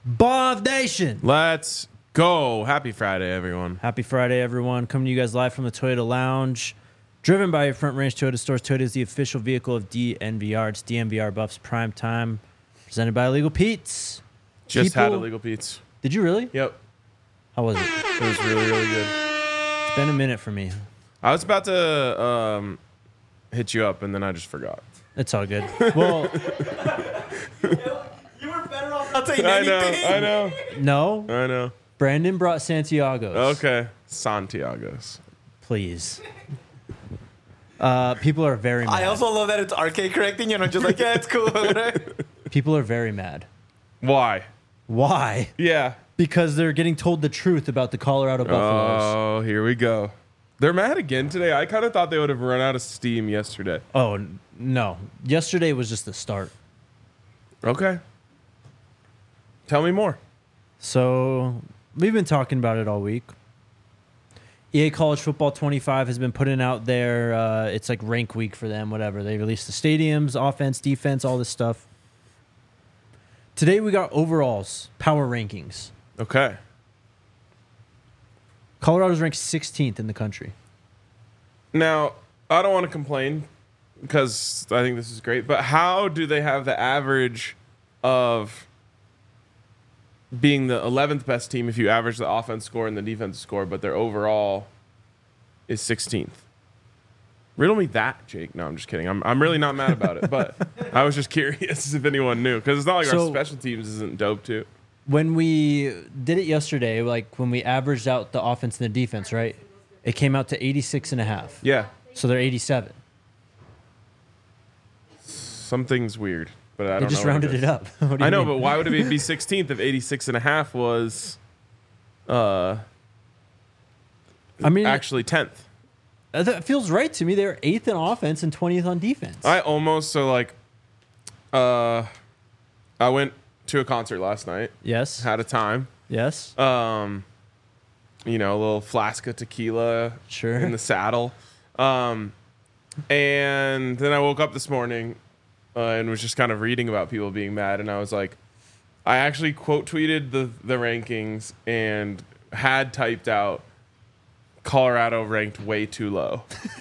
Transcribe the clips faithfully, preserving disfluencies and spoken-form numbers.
Bob Nation. Let's go. Happy Friday, everyone. Happy Friday, everyone. Coming to you guys live from the Toyota Lounge. Driven by your Front Range Toyota stores. Toyota is the official vehicle of D N V R. It's D N V R Buffs Prime Time. Presented by Illegal Pete's. Just People, had Illegal Pete's. Did you really? Yep. How was it? It was really, really good. It's been a minute for me. I was about to um, hit you up, and then I just forgot. It's all good. Well, You were better off not saying I know, anything. I know, no. I know. Brandon brought Santiago's. Okay. Santiago's. Please. Uh, people are very mad. I also love that it's R K correcting you, and I'm just like, yeah, it's cool. Right? People are very mad. Why? Why? Yeah. Because they're getting told the truth about the Colorado Buffaloes. Oh, here we go. They're mad again today. I kind of thought they would have run out of steam yesterday. Oh, n- no. Yesterday was just the start. Okay. Tell me more. So we've been talking about it all week. E A College Football twenty-five has been putting out there. Uh, it's like rank week for them, whatever. They released the stadiums, offense, defense, all this stuff. Today we got overalls, power rankings. Okay. Colorado's ranked sixteenth in the country. Now, I don't want to complain because I think this is great, but how do they have the average of being the eleventh best team if you average the offense score and the defense score, but their overall is sixteenth? Riddle me that, Jake. No, I'm just kidding. I'm I'm really not mad about it, but I was just curious if anyone knew because it's not like So- our special teams isn't dope too. When we did it yesterday, like when we averaged out the offense and the defense, right? It came out to eighty-six and a half. Yeah, So they're eighty-seven. something's weird, but I They don't just know what rounded is. it up. What do you I know, mean? but why would it be sixteenth if eighty-six and a half was uh, I mean, actually tenth? Uh, That feels right to me. They're eighth in offense and twentieth on defense. I almost, so like, uh, I went to a concert last night, yes. had a time, Yes. um, you know, a little flask of tequila Sure. in the saddle. Um, and then I woke up this morning uh, and was just kind of reading about people being mad. And I was like, I actually quote tweeted the, the rankings and had typed out Colorado ranked way too low.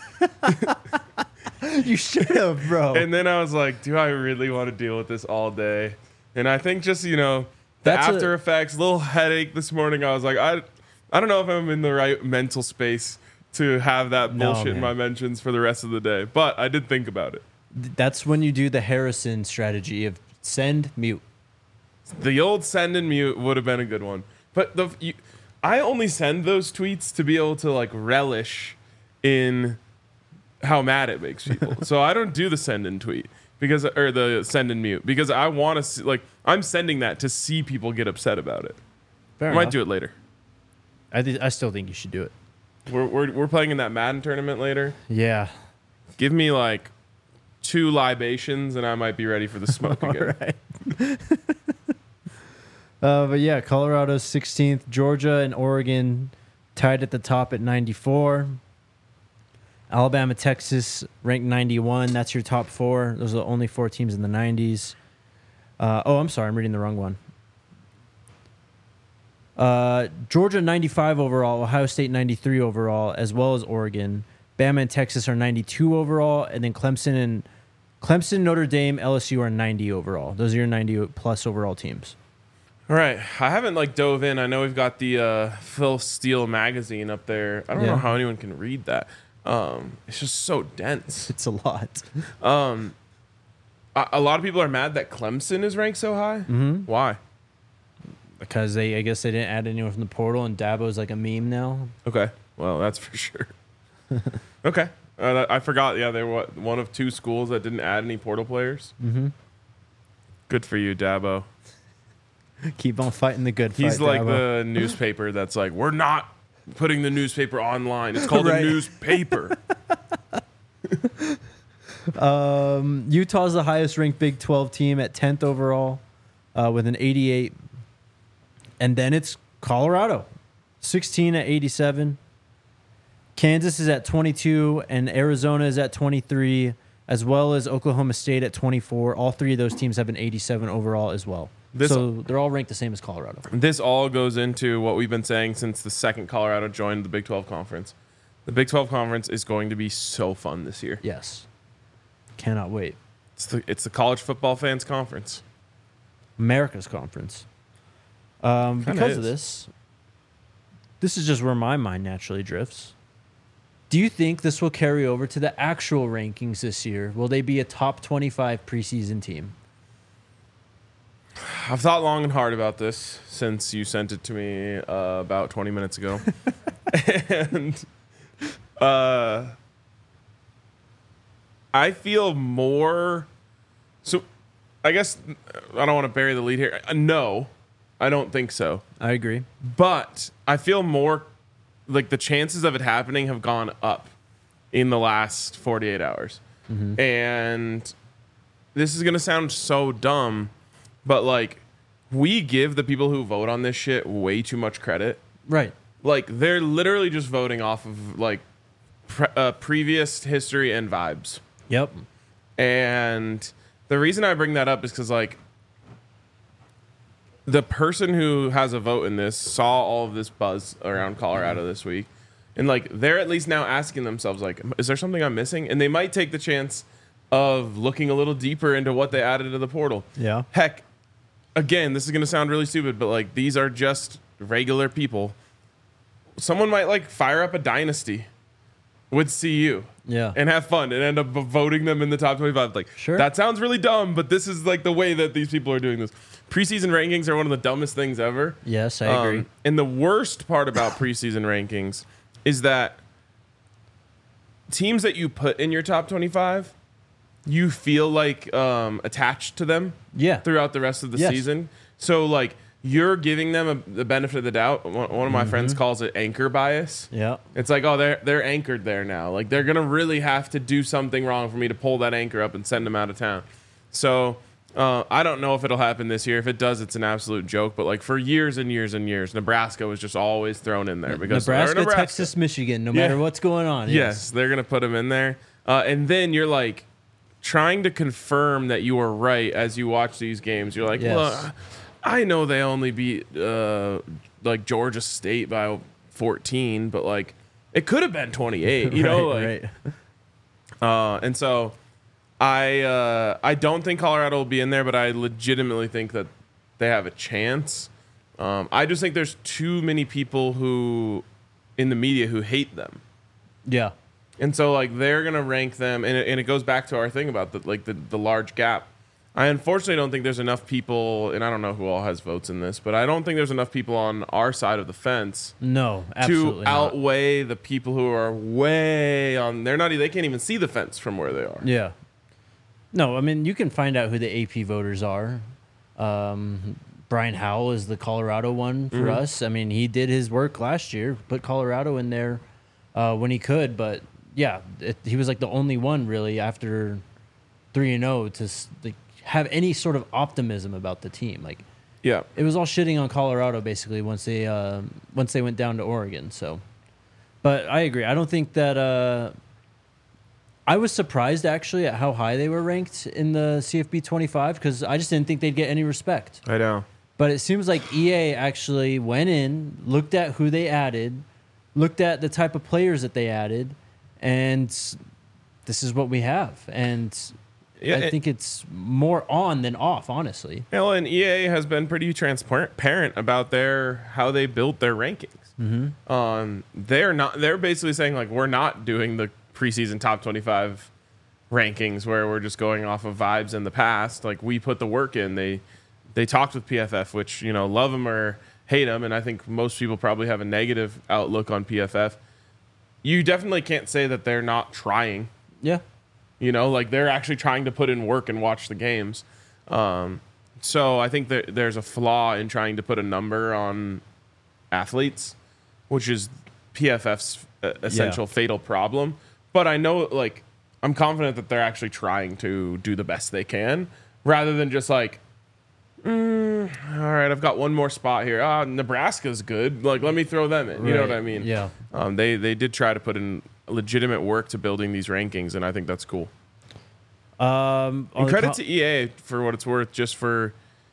You should have, bro. And then I was like, do I really want to deal with this all day? And I think just, you know, the That's after a- effects, little headache this morning. I was like, I, I don't know if I'm in the right mental space to have that No, bullshit in man. my mentions for the rest of the day. But I did think about it. That's when you do the Harrison strategy of send, mute. The old send and mute would have been a good one. But the you, I only send those tweets to be able to like relish in how mad it makes people. So I don't do the send and tweet because or the send and mute because I want to see like I'm sending that to see people get upset about it. Fair I might do it later. I, th- I still think you should do it. We're, we're we're playing in that Madden tournament later. Yeah. Give me like two libations and I might be ready for the smoke All again. right. uh, but yeah, Colorado's sixteenth. Georgia and Oregon tied at the top at ninety-four. Alabama, Texas ranked ninety-one. That's your top four. Those are the only four teams in the nineties. Uh, oh, I'm sorry. I'm reading the wrong one. Uh, Georgia ninety-five overall, Ohio State ninety-three overall, as well as Oregon. Bama and Texas are ninety-two overall, and then Clemson and Clemson, Notre Dame, L S U are ninety overall. Those are your ninety plus overall teams. All right, I haven't like dove in. I know we've got the uh, Phil Steele magazine up there. I don't Yeah. know how anyone can read that. Um, it's just so dense. It's a lot. Um, a, a lot of people are mad that Clemson is ranked so high. Mm-hmm. Why? Because they, I guess they didn't add anyone from the portal, and Dabo's like a meme now. Okay, well that's for sure. Okay, uh, that- I forgot. Yeah, they were what, one of two schools that didn't add any portal players. Mm-hmm. Good for you, Dabo. Keep on fighting the good fight. He's like Dabo. the newspaper that's like, we're not putting the newspaper online. It's called Right. a newspaper. Um, Utah's the highest ranked Big twelve team at tenth overall uh, with an eighty-eight. And then it's Colorado, sixteen at eighty-seven. Kansas is at twenty-two, and Arizona is at twenty-three, as well as Oklahoma State at twenty-four. All three of those teams have an eighty-seven overall as well. This so they're all ranked the same as Colorado. this all goes into what we've been saying since the second Colorado joined the Big twelve Conference. The Big twelve Conference is going to be so fun this year. Yes. Cannot wait. It's the it's the college football fans conference. America's conference. Um, Kinda because is. of this, this is just where my mind naturally drifts. Do you think this will carry over to the actual rankings this year? Will they be a top twenty-five preseason team? I've thought long and hard about this since you sent it to me uh, about twenty minutes ago. and uh, I feel more. So I guess I don't want to bury the lead here. Uh, No, I don't think so. I agree. But I feel more like the chances of it happening have gone up in the last forty-eight hours. Mm-hmm. And this is going to sound so dumb, but like we give the people who vote on this shit way too much credit. Right. Like they're literally just voting off of like pre- uh, previous history and vibes. Yep. And the reason I bring that up is because like the person who has a vote in this saw all of this buzz around Colorado this week, and like they're at least now asking themselves like, is there something I'm missing? And they might take the chance of looking a little deeper into what they added to the portal. Yeah. Heck, again, this is going to sound really stupid, but like these are just regular people. Someone might like fire up a dynasty with C U Yeah. and have fun and end up voting them in the top twenty-five. Like, Sure. that sounds really dumb, but this is like the way that these people are doing this. Preseason rankings are one of the dumbest things ever. Yes, I agree. Um, and the worst part about preseason rankings is that teams that you put in your top twenty-five, you feel like um, attached to them Yeah. throughout the rest of the Yes. season. So like you're giving them a, the benefit of the doubt. One, one of my friends calls it anchor bias. Yeah. It's like, oh, they're they're anchored there now. Like they're gonna really have to do something wrong for me to pull that anchor up and send them out of town. So uh, I don't know if it'll happen this year. If it does, it's an absolute joke. But like for years and years and years, Nebraska was just always thrown in there because they're Nebraska, Nebraska. Texas, Michigan, no Yeah. matter what's going on. Yes, they're gonna put them in there, uh, and then you're like trying to confirm that you are right as you watch these games. You're like, Yes. well, I know they only beat uh, like Georgia State by fourteen, but like it could have been twenty-eight. You know, right, like, right. uh, and so I uh, I don't think Colorado will be in there, but I legitimately think that they have a chance. Um, I just think there's too many people who in the media who hate them. Yeah. And so, like, they're gonna rank them, and it, and it goes back to our thing about the like the, the large gap. I unfortunately don't think there's enough people, and I don't know who all has votes in this, but I don't think there's enough people on our side of the fence No, to absolutely not. outweigh the people who are way on. They're not. e- They can't even see the fence from where they are. Yeah. No, I mean, you can find out who the A P voters are. Um, Brian Howell is the Colorado one for Mhm. us. I mean, he did his work last year, put Colorado in there uh, when he could, but yeah, it, he was like the only one really after three and zero to s- like, have any sort of optimism about the team. Like Yeah. it was all shitting on Colorado basically once they uh, once they went down to Oregon. So, but I agree. I don't think that. Uh, I was surprised actually at how high they were ranked in the C F B twenty-five because I just didn't think they'd get any respect. I know. But it seems like E A actually went in, looked at who they added, looked at the type of players that they added, and this is what we have. And Yeah, I it- think it's more on than off, honestly. Well, and E A has been pretty transparent about their how they built their rankings. Mm-hmm. Um, they're not. They're basically saying like we're not doing the preseason top twenty-five rankings where we're just going off of vibes in the past. Like we put the work in. They they talked with P F F, which you know love them or hate them, and I think most people probably have a negative outlook on P F F. You definitely can't say that they're not trying. Yeah. You know, like they're actually trying to put in work and watch the games. Um, so I think that there's a flaw in trying to put a number on athletes, which is P F F's uh, essential fatal problem. But I know, like, I'm confident that they're actually trying to do the best they can rather than just like, mm, all right, I've got one more spot here. Ah, Nebraska's good. Like, let me throw them in. You know Right. what I mean? Yeah. Um, they they did try to put in legitimate work to building these rankings, and I think that's cool. Um, on And the credit co- to E A for what it's worth, just for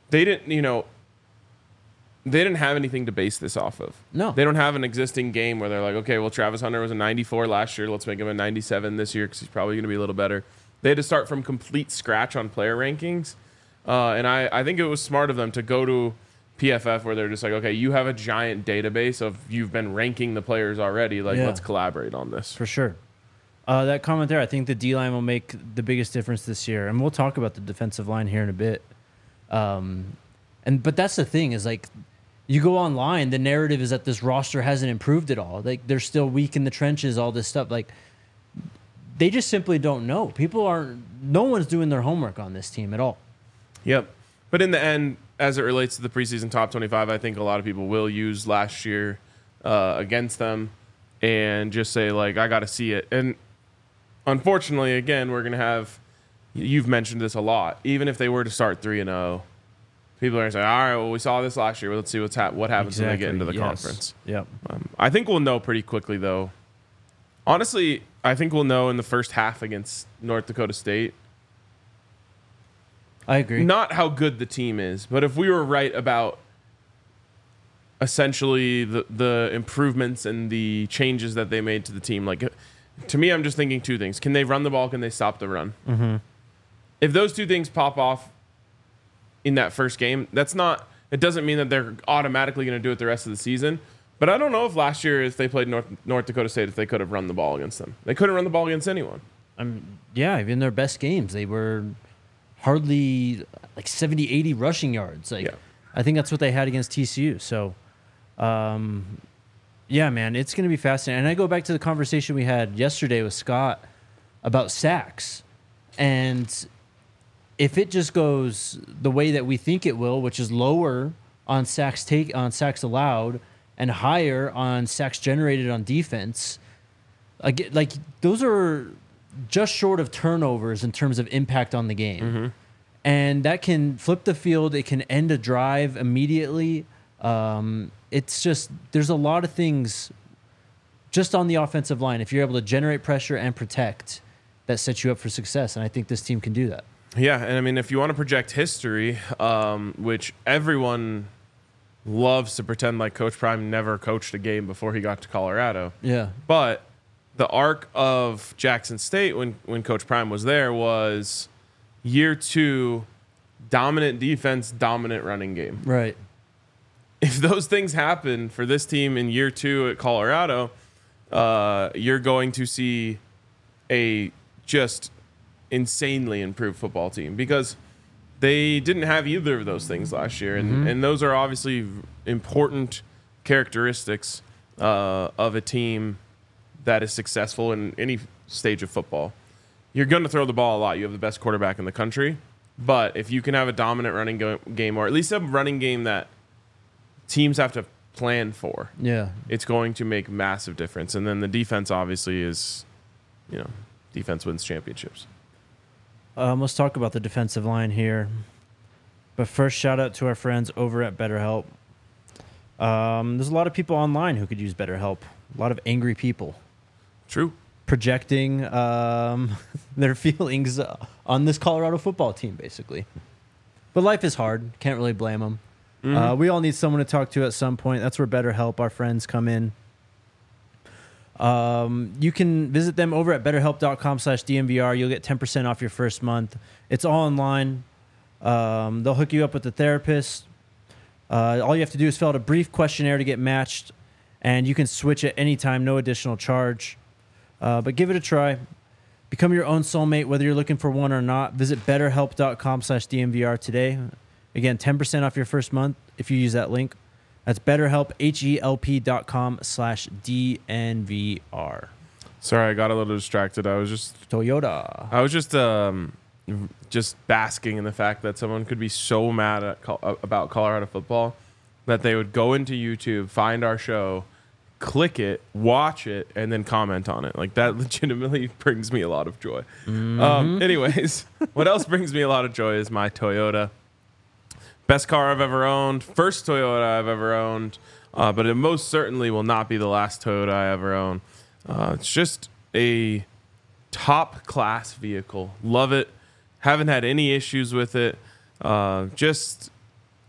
they didn't, you know, they didn't have anything to base this off of. No. They don't have an existing game where they're like, okay, well, Travis Hunter was a ninety-four last year. Let's make him a ninety-seven this year because he's probably going to be a little better. They had to start from complete scratch on player rankings. Uh, and I, I think it was smart of them to go to P F F where they're just like, okay, you have a giant database of you've been ranking the players already. Like, Yeah. let's collaborate on this. For sure. Uh, that comment there, I think the D-line will make the biggest difference this year. And we'll talk about the defensive line here in a bit. Um, and But that's the thing is, like, you go online, the narrative is that this roster hasn't improved at all. Like, they're still weak in the trenches, all this stuff. Like, they just simply don't know. People aren't, no one's doing their homework on this team at all. Yep. But in the end, as it relates to the preseason top twenty-five, I think a lot of people will use last year uh, against them and just say, like, I got to see it. And unfortunately, again, we're going to have, you've mentioned this a lot, even if they were to start three and oh, people are going to say, all right, well, we saw this last year. Well, let's see what's hap- what happens when they get into the yes. conference. Yep. Um, I think we'll know pretty quickly, though. Honestly, I think we'll know in the first half against North Dakota State. I agree. Not how good the team is, but if we were right about essentially the, the improvements and the changes that they made to the team, like, to me, I'm just thinking two things. Can they run the ball? Can they stop the run? Mm-hmm. If those two things pop off in that first game, that's not, it doesn't mean that they're automatically going to do it the rest of the season. But I don't know if last year, if they played North, North Dakota State, if they could have run the ball against them. They couldn't run the ball against anyone. Um, yeah, even their best games, they were hardly like seventy, eighty rushing yards. Like, Yeah. I think that's what they had against T C U. So, um, yeah, man, it's going to be fascinating. And I go back to the conversation we had yesterday with Scott about sacks. And if it just goes the way that we think it will, which is lower on sacks take on sacks allowed and higher on sacks generated on defense, like, like those are just short of turnovers in terms of impact on the game. Mm-hmm. And that can flip the field. It can end a drive immediately. Um, it's just, there's a lot of things just on the offensive line. If you're able to generate pressure and protect, that sets you up for success. And I think this team can do that. Yeah, and I mean, if you want to project history, um, which everyone loves to pretend like Coach Prime never coached a game before he got to Colorado. Yeah. But the arc of Jackson State when, when Coach Prime was there was year two, dominant defense, dominant running game. Right. If those things happen for this team in year two at Colorado, uh, you're going to see a just insanely improved football team because they didn't have either of those things last year. And, Mm-hmm. and those are obviously important characteristics uh, of a team that is successful in any stage of football. You're going to throw the ball a lot. You have the best quarterback in the country. But if you can have a dominant running go- game, or at least a running game that teams have to plan for, Yeah. it's going to make massive difference. And then the defense obviously is, you know, defense wins championships. Um, let's talk about the defensive line here. But first, shout out to our friends over at BetterHelp. Um, there's a lot of people online who could use BetterHelp. A lot of angry people True. projecting um, their feelings on this Colorado football team, basically. But life is hard. Can't really blame them. Mm-hmm. Uh, we all need someone to talk to at some point. That's where BetterHelp, our friends, come in. Um, you can visit them over at betterhelp.com slash DNVR. You'll get ten percent off your first month. It's all online. Um, they'll hook you up with a therapist. Uh, all you have to do is fill out a brief questionnaire to get matched, and you can switch at any time, no additional charge. Uh, but give it a try. Become your own soulmate, whether you're looking for one or not. Visit betterhelp.com slash DNVR today. Again, ten percent off your first month if you use that link. That's betterhelp, H-E-L-P dot com slash D-N-V-R. Sorry, I got a little distracted. I was just Toyota. I was just um, just basking in the fact that someone could be so mad at Col- about Colorado football that they would go into YouTube, find our show, click it, watch it, and then comment on it. Like, that legitimately brings me a lot of joy. Mm-hmm. Um, anyways, what else brings me a lot of joy is my Toyota. Best car I've ever owned. First Toyota I've ever owned. Uh, but it most certainly will not be the last Toyota I ever own. Uh, it's just a top class vehicle. Love it. Haven't had any issues with it. Uh, just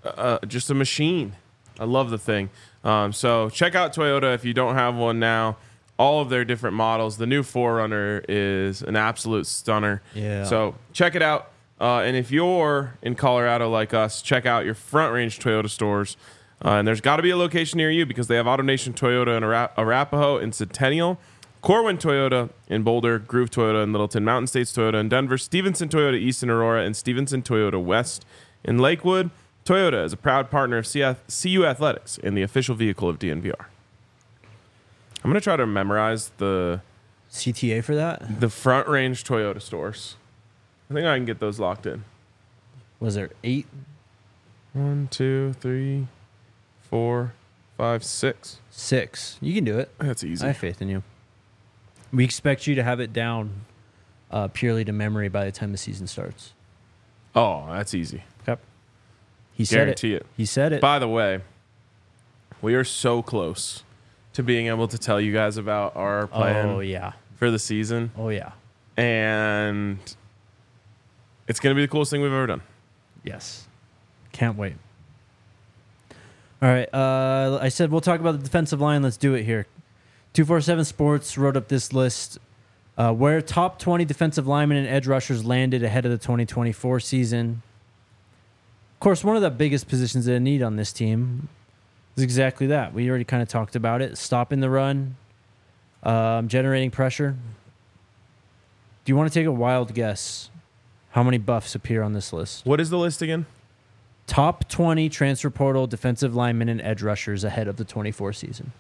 uh, just a machine. I love the thing. Um, so check out Toyota if you don't have one now. All of their different models. The new four runner is an absolute stunner. Yeah. So check it out. Uh, and if you're in Colorado like us, check out your Front Range Toyota stores. Uh, and there's got to be a location near you because they have AutoNation Toyota in Ara- Arapahoe and Centennial, Corwin Toyota in Boulder, Groove Toyota in Littleton, Mountain States Toyota in Denver, Stevenson Toyota East in Aurora, and Stevenson Toyota West in Lakewood. Toyota is a proud partner of C U Athletics and the official vehicle of D N V R. I'm going to try to memorize the C T A for that? the Front Range Toyota stores. I think I can get those locked in. Was there eight? One, two, three, four, five, six. Six. You can do it. That's easy. I have faith in you. We expect you to have it down uh, purely to memory by the time the season starts. Oh, that's easy. Yep. He said Guarantee it. it. He said it. By the way, we are so close to being able to tell you guys about our plan Oh, yeah. for the season. Oh, yeah. And it's going to be the coolest thing we've ever done. Yes. Can't wait. All right. Uh, I said we'll talk about the defensive line. Let's do it here. two forty-seven Sports wrote up this list uh, where top twenty defensive linemen and edge rushers landed ahead of the twenty twenty-four season. Of course, one of the biggest positions that I need on this team is exactly that. We already kind of talked about it. Stopping the run, um, generating pressure. Do you want to take a wild guess how many buffs appear on this list? What is the list again? Top twenty transfer portal defensive linemen and edge rushers ahead of the twenty-four season.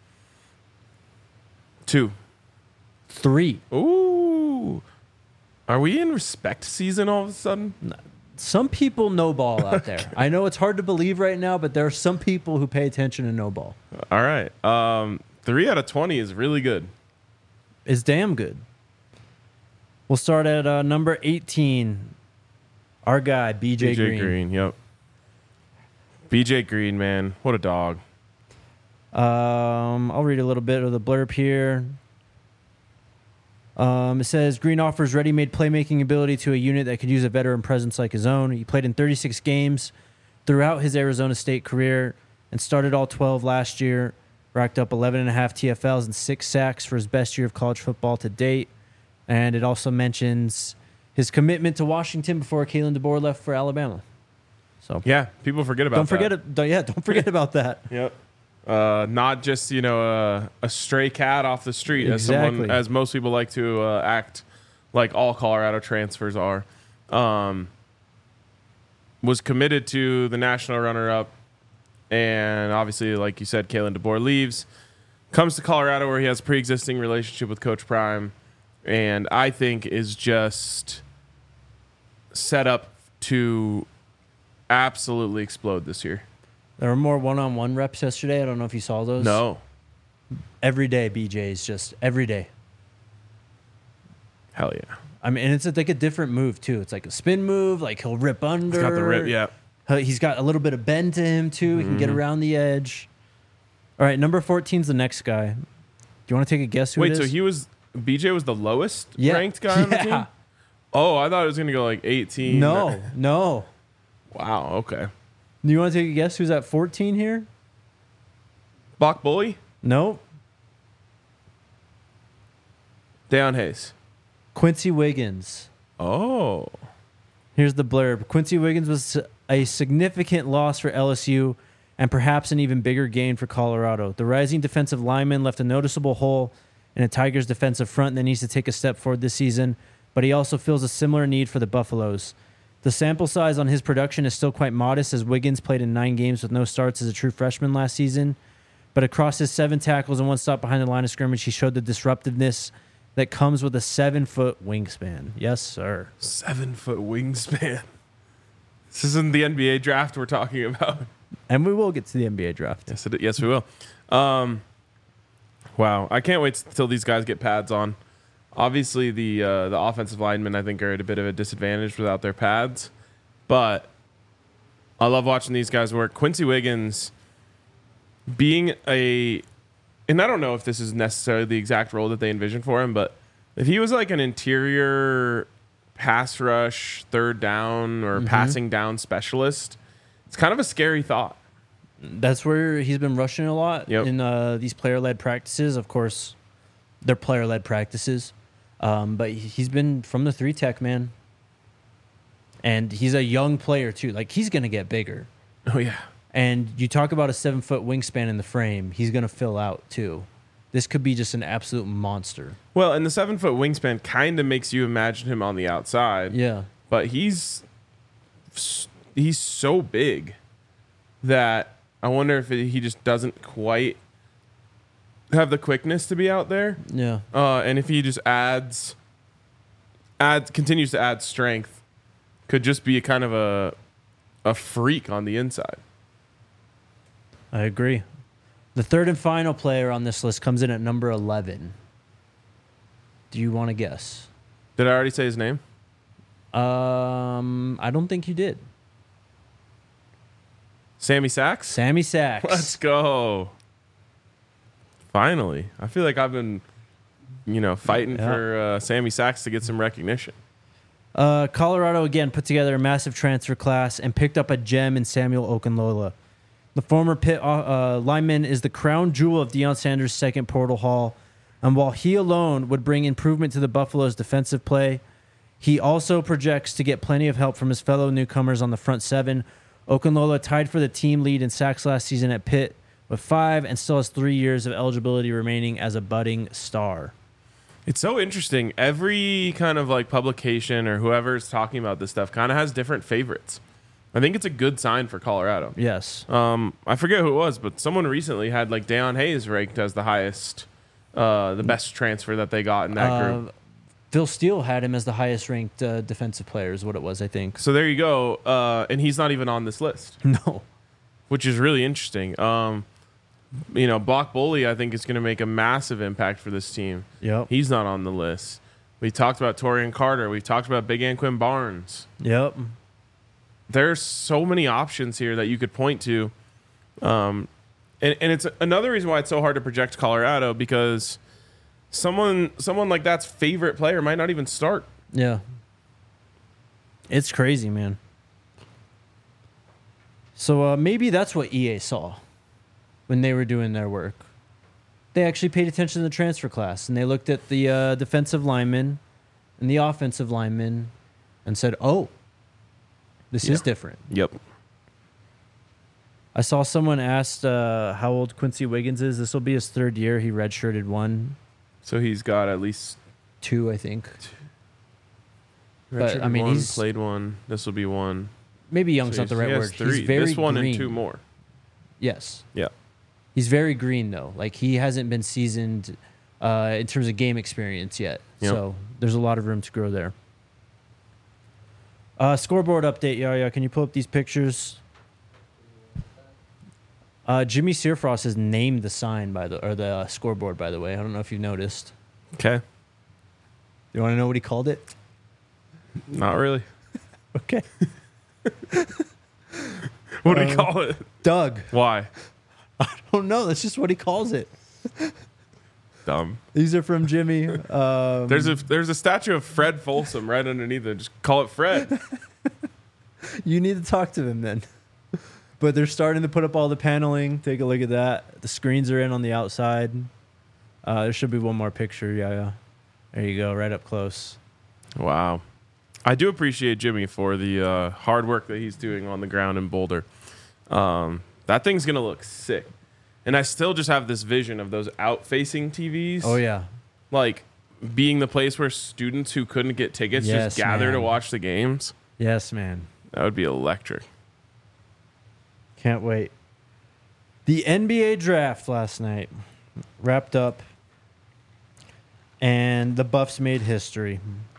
Two. Three. Ooh. Are we in respect season all of a sudden? Some people know ball out there. I know it's hard to believe right now, but there are some people who pay attention to know ball. All right. Um, three out of twenty is really good. It's damn good. We'll start at uh, number eighteen. Our guy, B J, B J Green. Green, yep. B J Green, man. What a dog. Um, I'll read a little bit of the blurb here. Um, it says, Green offers ready-made playmaking ability to a unit that could use a veteran presence like his own. He played in thirty-six games throughout his Arizona State career and started all twelve last year. Racked up eleven and a half T F Ls and six sacks for his best year of college football to date. And it also mentions his commitment to Washington before Kalen DeBoer left for Alabama. So Yeah, people forget about don't that. forget it. Don't, yeah, don't forget about that. Yep. Uh, not just, you know, uh, a stray cat off the street, as someone, Exactly. as most people like to uh, act like all Colorado transfers are. Um, was committed to the national runner-up, and obviously, like you said, Kalen DeBoer leaves, comes to Colorado where he has a pre-existing relationship with Coach Prime, and I think is just set up to absolutely explode this year. There were more one-on-one reps yesterday. I don't know if you saw those. No. Every day, B J is just every day. Hell yeah. I mean, and it's like a different move too. It's like a spin move. Like he'll rip under. He's got the rip, yeah. Uh, He's got a little bit of bend to him too. He can get around the edge. All right, number fourteen is the next guy. Do you want to take a guess who Wait, it is? so he was B J was the lowest Yeah. ranked guy on the Yeah. team? Oh, I thought it was gonna go like eighteen. No, no. Wow. Okay. Do you want to take a guess who's at fourteen here? Bach Bully, Nope. Deion Hayes. Quincy Wiggins. Oh. Here's the blurb. Quincy Wiggins was a significant loss for L S U and perhaps an even bigger gain for Colorado. The rising defensive lineman left a noticeable hole in a Tigers defensive front that needs to take a step forward this season, but he also feels a similar need for the Buffaloes. The sample size on his production is still quite modest, as Wiggins played in nine games with no starts as a true freshman last season. But across his seven tackles and one stop behind the line of scrimmage, he showed the disruptiveness that comes with a seven-foot wingspan. Yes, sir. Seven foot wingspan. This isn't the N B A draft we're talking about. And we will get to the N B A draft. Yes, it, yes, we will. Um, wow, I can't wait till these guys get pads on. Obviously, the uh, the offensive linemen I think are at a bit of a disadvantage without their pads, but I love watching these guys work. Quincy Wiggins being a, and I don't know if this is necessarily the exact role that they envision for him, but if he was like an interior pass rush, third down, or passing down specialist, It's kind of a scary thought. That's where he's been rushing a lot Yep. in uh, these player-led practices. Of course, they're player-led practices. Um, but he's been from the three tech, man. And he's a young player, too. Like, he's going to get bigger. Oh, yeah. And you talk about a seven-foot wingspan in the frame. He's going to fill out, too. This could be just an absolute monster. Well, and the seven-foot wingspan kind of makes you imagine him on the outside. Yeah. But he's he's so big that I wonder if it, he just doesn't quite have the quickness to be out there. Yeah. Uh, and if he just adds, adds, continues to add strength, could just be a kind of a, a freak on the inside. I agree. The third and final player on this list comes in at number eleven. Do you want to guess? Did I already say his name? Um, I don't think you did. Sammy Sachs? Sammy Sachs. Let's go. Finally. I feel like I've been, you know, fighting Yeah. for uh, Sammy Sachs to get some recognition. Uh, Colorado again put together a massive transfer class and picked up a gem in Samuel Okunlola. The former Pitt uh, uh, lineman is the crown jewel of Deion Sanders' second portal haul, and while he alone would bring improvement to the Buffalo's defensive play, he also projects to get plenty of help from his fellow newcomers on the front seven. Okunlola tied for the team lead in sacks last season at Pitt with five and still has three years of eligibility remaining as a budding star. It's so interesting. Every kind of like publication or whoever's talking about this stuff kind of has different favorites. I think it's a good sign for Colorado. Yes. Um, I forget who it was, but someone recently had like Deion Hayes ranked as the highest, uh, the best transfer that they got in that Uh, group. Phil Steele had him as the highest ranked uh, defensive player is what it was, I think. So there you go. Uh, and he's not even on this list, No. which is really interesting. Um, you know, Block Bully, I think, is going to make a massive impact for this team. Yep. He's not on the list. We talked about Torian Carter. We talked about Big Anquin Barnes. Yep. There's so many options here that you could point to. Um, and, and it's another reason why it's so hard to project Colorado, because someone someone like that's favorite player might not even start. Yeah. It's crazy, man. So uh, maybe that's what E A saw when they were doing their work. They actually paid attention to the transfer class, and they looked at the uh, defensive linemen and the offensive linemen and said, oh, this is Yeah. different. Yep. I saw someone asked uh, how old Quincy Wiggins is. This will be his third year. He redshirted one, So he's got at least two, I think. But, redshirted I mean, one, he's- played one. This will be one. Maybe young's So not the he's- right he has word. Three. He's very this one green. and two more. Yes. Yeah. He's very green, though. Like, he hasn't been seasoned uh, in terms of game experience yet. Yep. So there's a lot of room to grow there. Uh, scoreboard update, Yaya. Can you pull up these pictures? Uh, Jimmy Searfrost has named the sign by the or the uh, scoreboard. By the way, I don't know if you've noticed. Okay. You want to know what he called it? Not really. Okay, What do Uh, we call it? Doug. Why? I don't know. That's just what he calls it. Dumb. These are from Jimmy. Um, There's a there's a statue of Fred Folsom right underneath it. Just call it Fred. You need to talk to him then. But they're starting to put up all the paneling. Take a look at that. The screens are in on the outside. Uh, there should be one more picture. Yeah, yeah. There you go, right up close. Wow. I do appreciate Jimmy for the uh, hard work that he's doing on the ground in Boulder. Um, that thing's going to look sick. And I still just have this vision of those out-facing T Vs. Oh, yeah. Like, being the place where students who couldn't get tickets Yes, just gather to man. watch the games. Yes, man. That would be electric. Can't wait. The N B A draft last night wrapped up, and the Buffs made history.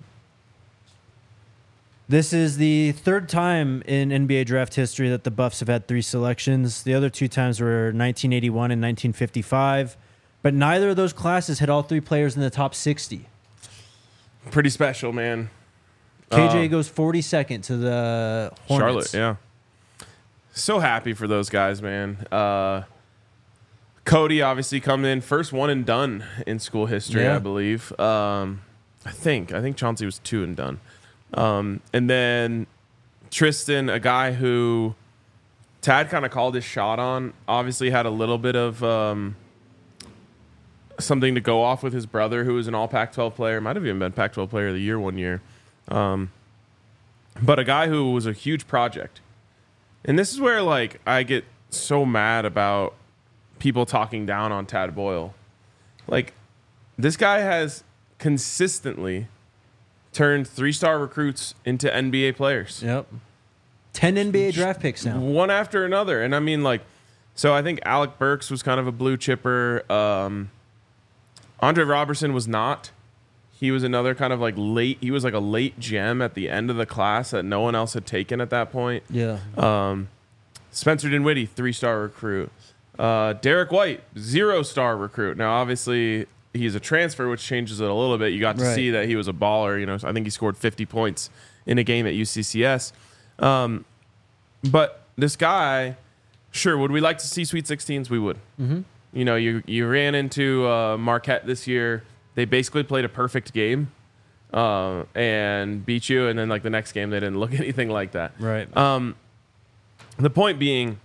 This is the third time in N B A draft history that the Buffs have had three selections. The other two times were nineteen eighty-one and nineteen fifty-five, but neither of those classes had all three players in the top sixty. Pretty special, man. K J Uh, goes forty-second to the Hornets. Charlotte, yeah. So happy for those guys, man. Uh, Cody obviously coming in first one and done in school history, Yeah. I believe. Um, I think I think Chauncey was two and done, um, and then Tristan, a guy who Tad kind of called his shot on. Obviously had a little bit of um, something to go off with his brother, who was an all Pac twelve player. Might have even been Pac twelve player of the year one year. Um, but a guy who was a huge project. And this is where, like, I get so mad about people talking down on Tad Boyle. Like, this guy has consistently turned three-star recruits into N B A players. Yep. ten N B A draft picks now. One after another. And I mean, like, so I think Alec Burks was kind of a blue chipper. Um, Andre Robertson was not. He was another kind of like late, he was like a late gem at the end of the class that no one else had taken at that point. Yeah. Um, Spencer Dinwiddie, three-star recruit. Uh, Derek White, zero-star recruit. Now, obviously, he's a transfer, which changes it a little bit. You got to Right. see that he was a baller. You know, I think he scored fifty points in a game at U C C S. Um, but this guy, sure, would we like to see Sweet sixteens? We would. Mm-hmm. You know, you you ran into uh, Marquette this year. They basically played a perfect game uh, and beat you, and then like the next game, they didn't look anything like that. Right. Um, the point being,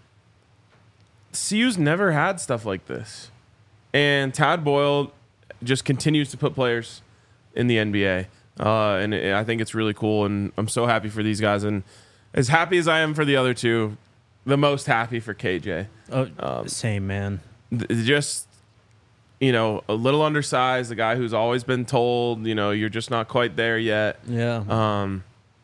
C U's never had stuff like this, and Tad Boyle just continues to put players in the N B A, uh, and it, I think it's really cool, and I'm so happy for these guys, and as happy as I am for the other two, the most happy for K J. Oh, Um, same, man. Th- just, you know, a little undersized, a guy who's always been told, you know, you're just not quite there yet. Yeah. Um,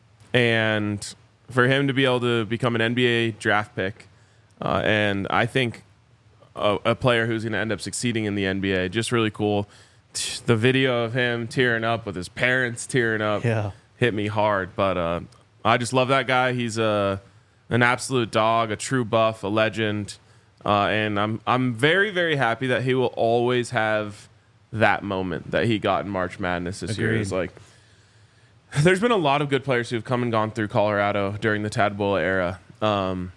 and for him to be able to become an N B A draft pick, uh, and I think a, a player who's going to end up succeeding in the N B A, just really cool. T- The video of him tearing up with his parents tearing up Yeah. hit me hard. But uh, I just love that guy. He's a an absolute dog, a true buff, a legend. Uh, and I'm I'm very, very happy that he will always have that moment that he got in March Madness this year. Agreed. It's like, there's been a lot of good players who've come and gone through Colorado during the Tad Boyle era. Um,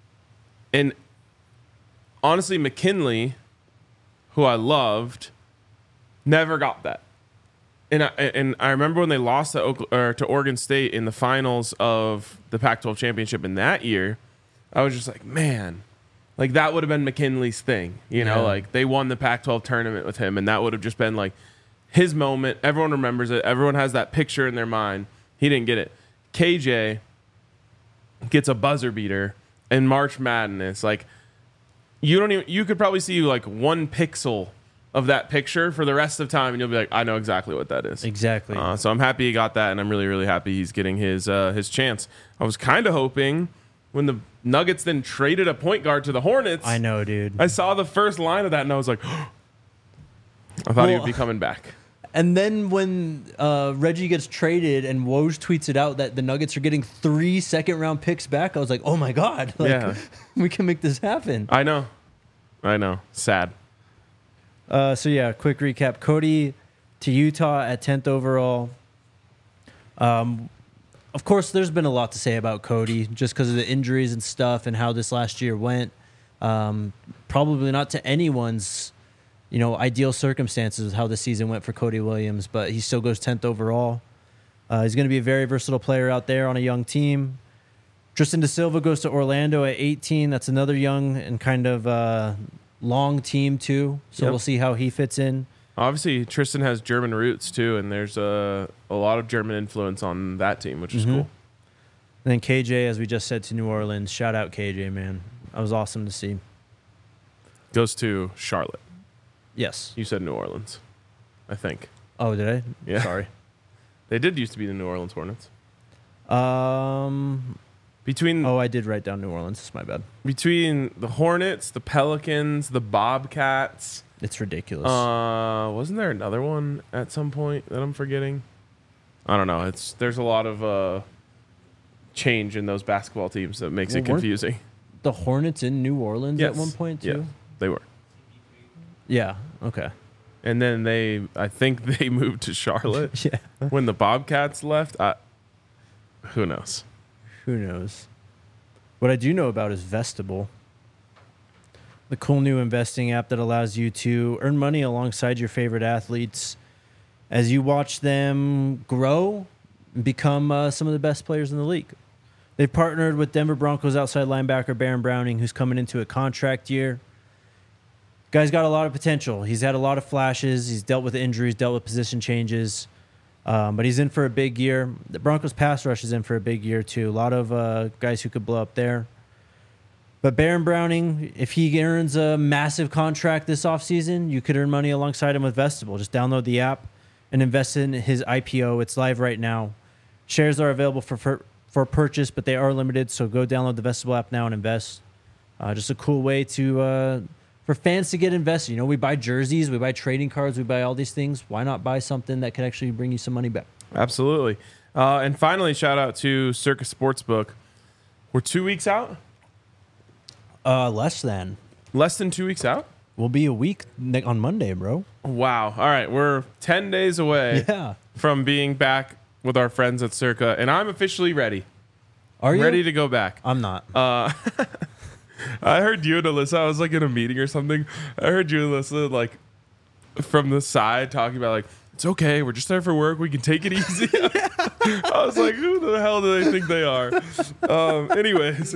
and honestly, McKinley, who I loved, never got that. And I, and I remember when they lost to, Oklahoma, or to Oregon State in the finals of the Pac twelve championship in that year, I was just like, man, like that would have been McKinley's thing. You know, Yeah. like they won the Pac twelve tournament with him, and that would have just been like his moment. Everyone remembers it. Everyone has that picture in their mind. He didn't get it. K J gets a buzzer beater in March Madness. Like you don't even, you could probably see like one pixel of that picture for the rest of time, and you'll be like, I know exactly what that is. Exactly. Uh, so I'm happy he got that, and I'm really, really happy he's getting his uh, his chance. I was kind of hoping when the Nuggets then traded a point guard to the Hornets. I know, dude. I saw the first line of that, and I was like, I thought he Well- would be coming back. And then when uh, Reggie gets traded and Woj tweets it out that the Nuggets are getting three second round picks back, I was like, oh my God. Like, Yeah. we can make this happen. I know. I know. Sad. Uh, so, yeah, quick recap. Cody to Utah at tenth overall. Um, of course, there's been a lot to say about Cody just because of the injuries and stuff and how this last year went. Um, probably not to anyone's, you know, ideal circumstances with how the season went for Cody Williams, but he still goes tenth overall. Uh, he's going to be a very versatile player out there on a young team. Tristan Da Silva goes to Orlando at eighteen. That's another young and kind of uh, long team, too. So Yep. we'll see how he fits in. Obviously, Tristan has German roots, too, and there's a, a lot of German influence on that team, which is Mhm. cool. And then K J, as we just said, to New Orleans. Shout out K J, man. That was awesome to see. Goes to Charlotte. Yes. You said New Orleans, I think. Oh, did I? Yeah. Sorry. They did used to be the New Orleans Hornets. Um. Between Oh, I did write down New Orleans. It's my bad. between the Hornets, the Pelicans, the Bobcats, It's ridiculous. uh, wasn't there another one at some point that I'm forgetting? I don't know. It's there's a lot of uh, change in those basketball teams that makes Well, it weren't- confusing. the Hornets in New Orleans Yes. at one point, Yeah, too? they were. Yeah. Okay. And then they, I think they moved to Charlotte Yeah. when the Bobcats left. I, who knows? Who knows? What I do know about is Vestable, the cool new investing app that allows you to earn money alongside your favorite athletes as you watch them grow and become uh, some of the best players in the league. They've partnered with Denver Broncos outside linebacker Baron Browning, who's coming into a contract year. Guy's got a lot of potential. He's had a lot of flashes. He's dealt with injuries, dealt with position changes. Um, but he's in for a big year. The Broncos pass rush is in for a big year, too. A lot of uh, guys who could blow up there. But Baron Browning, if he earns a massive contract this offseason, you could earn money alongside him with Vestibule. Just download the app and invest in his I P O. It's live right now. Shares are available for for, for purchase, but they are limited. So go download the Vestibule app now and invest. Uh, just a cool way to... Uh, For fans to get invested. You know, we buy jerseys, we buy trading cards, we buy all these things. Why not buy something that could actually bring you some money back? Absolutely. Uh, and finally, shout out to Circa Sportsbook. We're two weeks out? Uh, less than. Less than two weeks out? We'll be a week ne- on Monday, bro. Wow. All right. We're ten days away Yeah. from being back with our friends at Circa, and I'm officially ready. Are you? Ready to go back. I'm not. Uh, I heard you and Alyssa, I was like in a meeting or something. I heard you and Alyssa like from the side talking about like, it's okay, we're just there for work, we can take it easy. I was like, who the hell do they think they are? Um, anyways.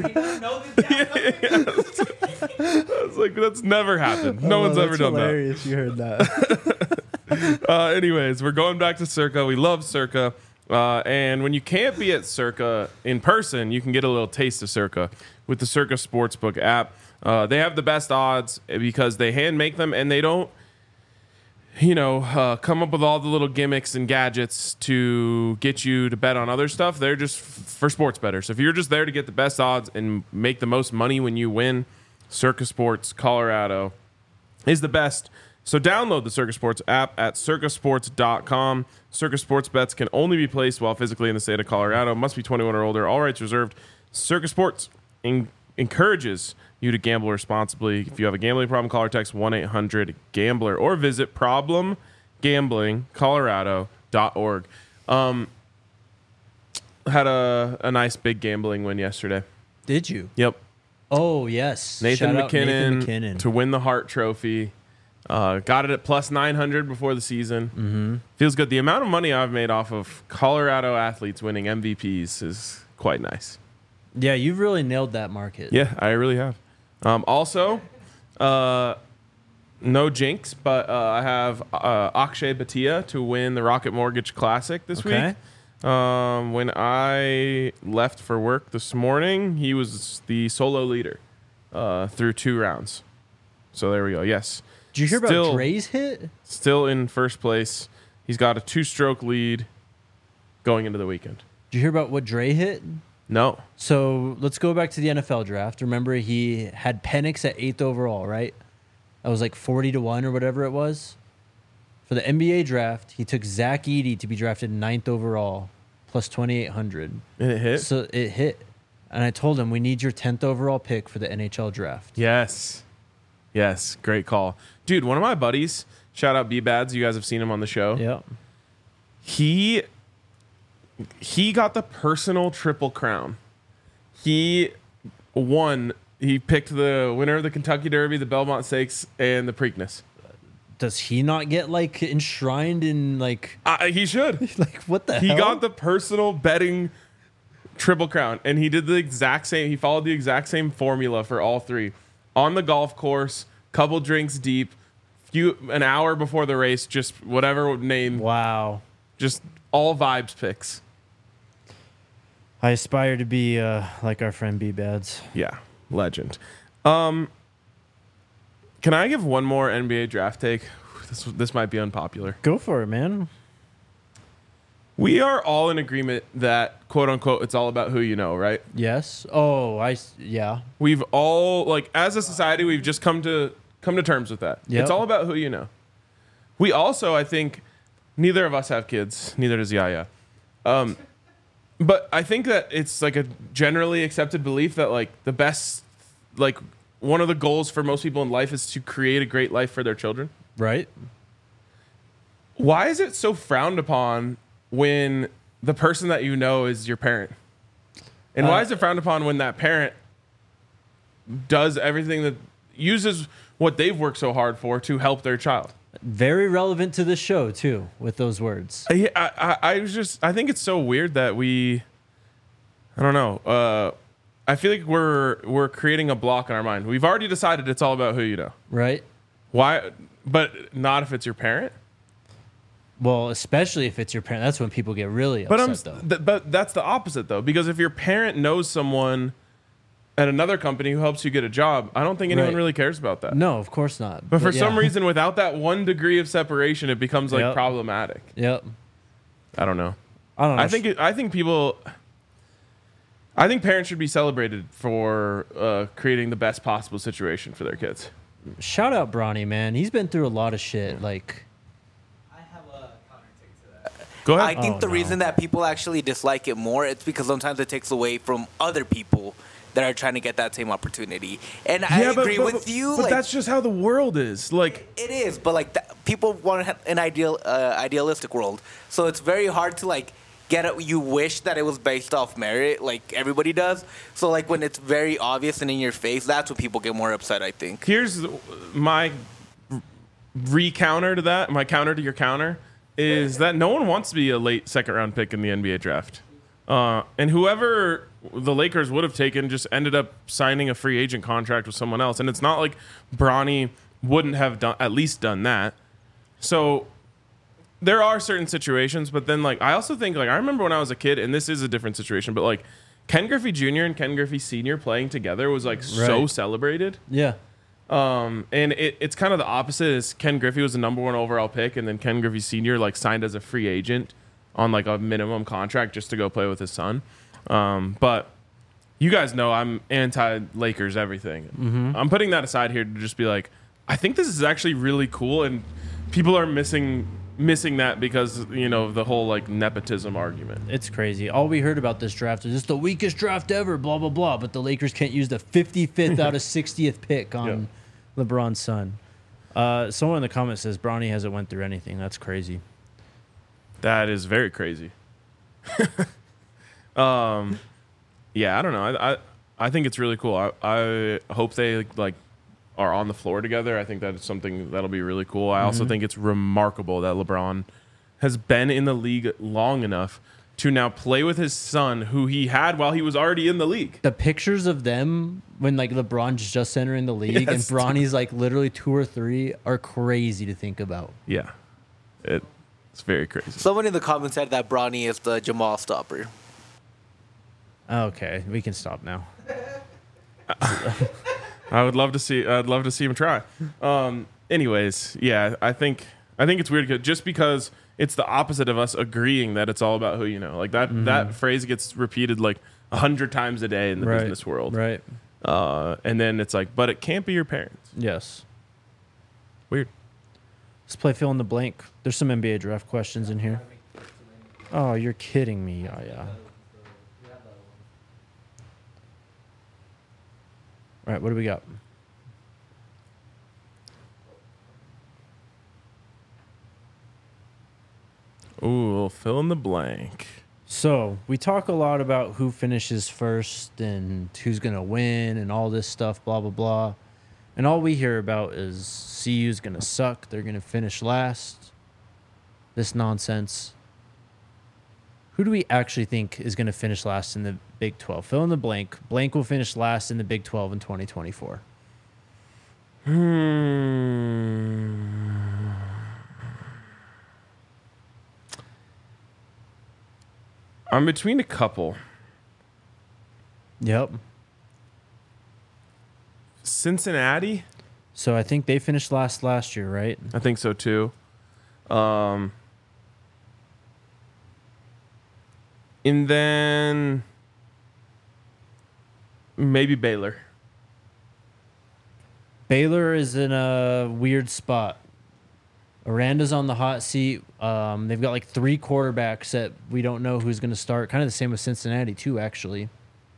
I was like, that's never happened. No Oh, one's that's ever done hilarious. You heard that. that. Uh, anyways, we're going back to Circa. We love Circa. Uh, and when you can't be at Circa in person, you can get a little taste of Circa with the Circa Sportsbook app. Uh, they have the best odds because they hand make them and they don't, you know, uh, come up with all the little gimmicks and gadgets to get you to bet on other stuff. They're just f- for sports bettors. If you're just there to get the best odds and make the most money when you win, Circa Sports Colorado is the best. So download the Circa Sports app at circa sports dot com. Circa Sports bets can only be placed while physically in the state of Colorado. Must be twenty-one or older. All rights reserved. Circa Sports en- encourages you to gamble responsibly. If you have a gambling problem, call or text one eight hundred gambler or visit problem gambling colorado dot org. Um, had a, a nice big gambling win yesterday. Did you? Yep. Oh, yes. Nathan Shout out McKinnon, Nathan McKinnon. to win the Hart Trophy. Uh, got it at plus nine hundred before the season. Mm-hmm. Feels good. The amount of money I've made off of Colorado athletes winning M V Ps is quite nice. Yeah, you've really nailed that market. Yeah, I really have. Um, also, uh, no jinx, but uh, I have uh, Akshay Bhatia to win the Rocket Mortgage Classic this Okay. week. Um, when I left for work this morning, he was the solo leader uh, through two rounds. So there we go. Yes. Did you hear Still- about Dre's hit? Still in first place. He's got a two-stroke lead going into the weekend. Did you hear about what Dre hit? No. So let's go back to the N F L draft. Remember, he had Penix at eighth overall, right? That was like forty to one or whatever it was. For the N B A draft, he took Zach Edey to be drafted ninth overall, plus twenty-eight hundred. And it hit? So it hit. And I told him, we need your tenth overall pick for the N H L draft. Yes. Yes. Great call. Dude, one of my buddies, shout out B-Bads, you guys have seen him on the show. Yep. He he got the personal triple crown. He won. He picked the winner of the Kentucky Derby, the Belmont Stakes, and the Preakness. Does he not get like enshrined in like Uh, he should. like what the He hell? got the personal betting triple crown, and he did the exact same. He followed the exact same formula for all three on the golf course, couple drinks deep, few an hour before the race, just whatever name, Wow. just all vibes picks. I aspire to be uh, like our friend B-Bads. Yeah, legend. Um, can I give one more N B A draft take? This this might be unpopular. Go for it, man. We are all in agreement that quote unquote it's all about who you know, right? Yes. Oh, I s- yeah. We've all like as a society we've just come to come to terms with that. Yep. It's all about who you know. We also, I think, neither of us have kids, neither does Yaya. Um, but I think that it's like a generally accepted belief that like the best, like one of the goals for most people in life is to create a great life for their children. Right? Why is it so frowned upon when the person that you know is your parent? And why Uh, is it frowned upon when that parent does everything that uses what they've worked so hard for to help their child? Very relevant to this show too, with those words. I, I, I was just I think it's so weird that we I don't know. Uh, I feel like we're we're creating a block in our mind. We've already decided it's all about who you know. Right? Why? But not if it's your parent. Well, especially if it's your parent. That's when people get really But I'm, upset, though. th- but that's the opposite though, because if your parent knows someone at another company who helps you get a job, I don't think anyone Right. really cares about that. No, of course not. But for yeah. some reason, without that one degree of separation, it becomes like Yep. problematic. Yep. I don't know. I don't know. I think it, I think people. I think parents should be celebrated for uh, creating the best possible situation for their kids. Shout out Bronny, man. He's been through a lot of shit. Like, I have a counter take to that. Go I ahead. think Oh, the no. reason that people actually dislike it more, it's because sometimes it takes away from other people that are trying to get that same opportunity. And I agree with you. But like, that's just how the world is. Like, it is, but like that, people want to have an ideal, uh, idealistic world. So it's very hard to like get it. You wish that it was based off merit, like everybody does. So like when it's very obvious and in your face, that's when people get more upset. I think. here's my re-counter to that. My counter to your counter is that no one wants to be a late second round pick in the N B A draft. Uh, and whoever the Lakers would have taken just ended up signing a free agent contract with someone else. And it's not like Bronny wouldn't have done at least done that. So there are certain situations, but then like I also think like I remember when I was a kid, and this is a different situation, but like Ken Griffey Junior and Ken Griffey Senior playing together was like so Right. celebrated. yeah. Um, and it, it's kind of the opposite. Is Ken Griffey was the number one overall pick, and then Ken Griffey Senior like signed as a free agent on like a minimum contract just to go play with his son. Um, but you guys know I'm anti Lakers everything. Mm-hmm. I'm putting that aside here to just be like, I think this is actually really cool, and people are missing missing that because you know the whole like nepotism argument. It's crazy. All we heard about this draft is it's the weakest draft ever, blah, blah, blah. But the Lakers can't use the fifty-fifth out of sixtieth pick on LeBron's son. Uh, someone in the comments says Bronny hasn't went through anything. That's crazy. That is very crazy. um, yeah, I don't know. I, I I think it's really cool. I I hope they like are on the floor together. I think that is something that'll be really cool. I also think it's remarkable that LeBron has been in the league long enough to now play with his son, who he had while he was already in the league. The pictures of them when like LeBron's just entering the league and Yes, Bronny's like literally two or three are crazy to think about. Yeah, it, it's very crazy. Someone in the comments said that Bronny is the Jamal stopper. Okay, we can stop now. I would love to see. I'd love to see him try. Um, anyways, yeah, I think I think it's weird 'cause- just because it's the opposite of us agreeing that it's all about who you know. Like that that phrase gets repeated like a hundred times a day in the Right. business world. Right. Uh, and then it's like, but it can't be your parents. Yes. Weird. Let's play fill in the blank. There's some N B A draft questions in here. Oh, you're kidding me. Yeah, yeah. All right, what do we got? Ooh, fill in the blank. So we talk a lot about who finishes first and who's going to win and all this stuff, blah, blah, blah. And all we hear about is C U's going to suck. They're going to finish last. This nonsense. Who do we actually think is going to finish last in the Big twelve? Fill in the blank. Blank will finish last in the Big twelve in twenty twenty-four. Hmm. I'm between a couple. Yep. Cincinnati? So I think they finished last last year, right? I think so too. Um, and then maybe Baylor. Baylor is in a weird spot. Aranda's on the hot seat. Um, they've got like three quarterbacks that we don't know who's going to start. Kind of the same with Cincinnati too, actually.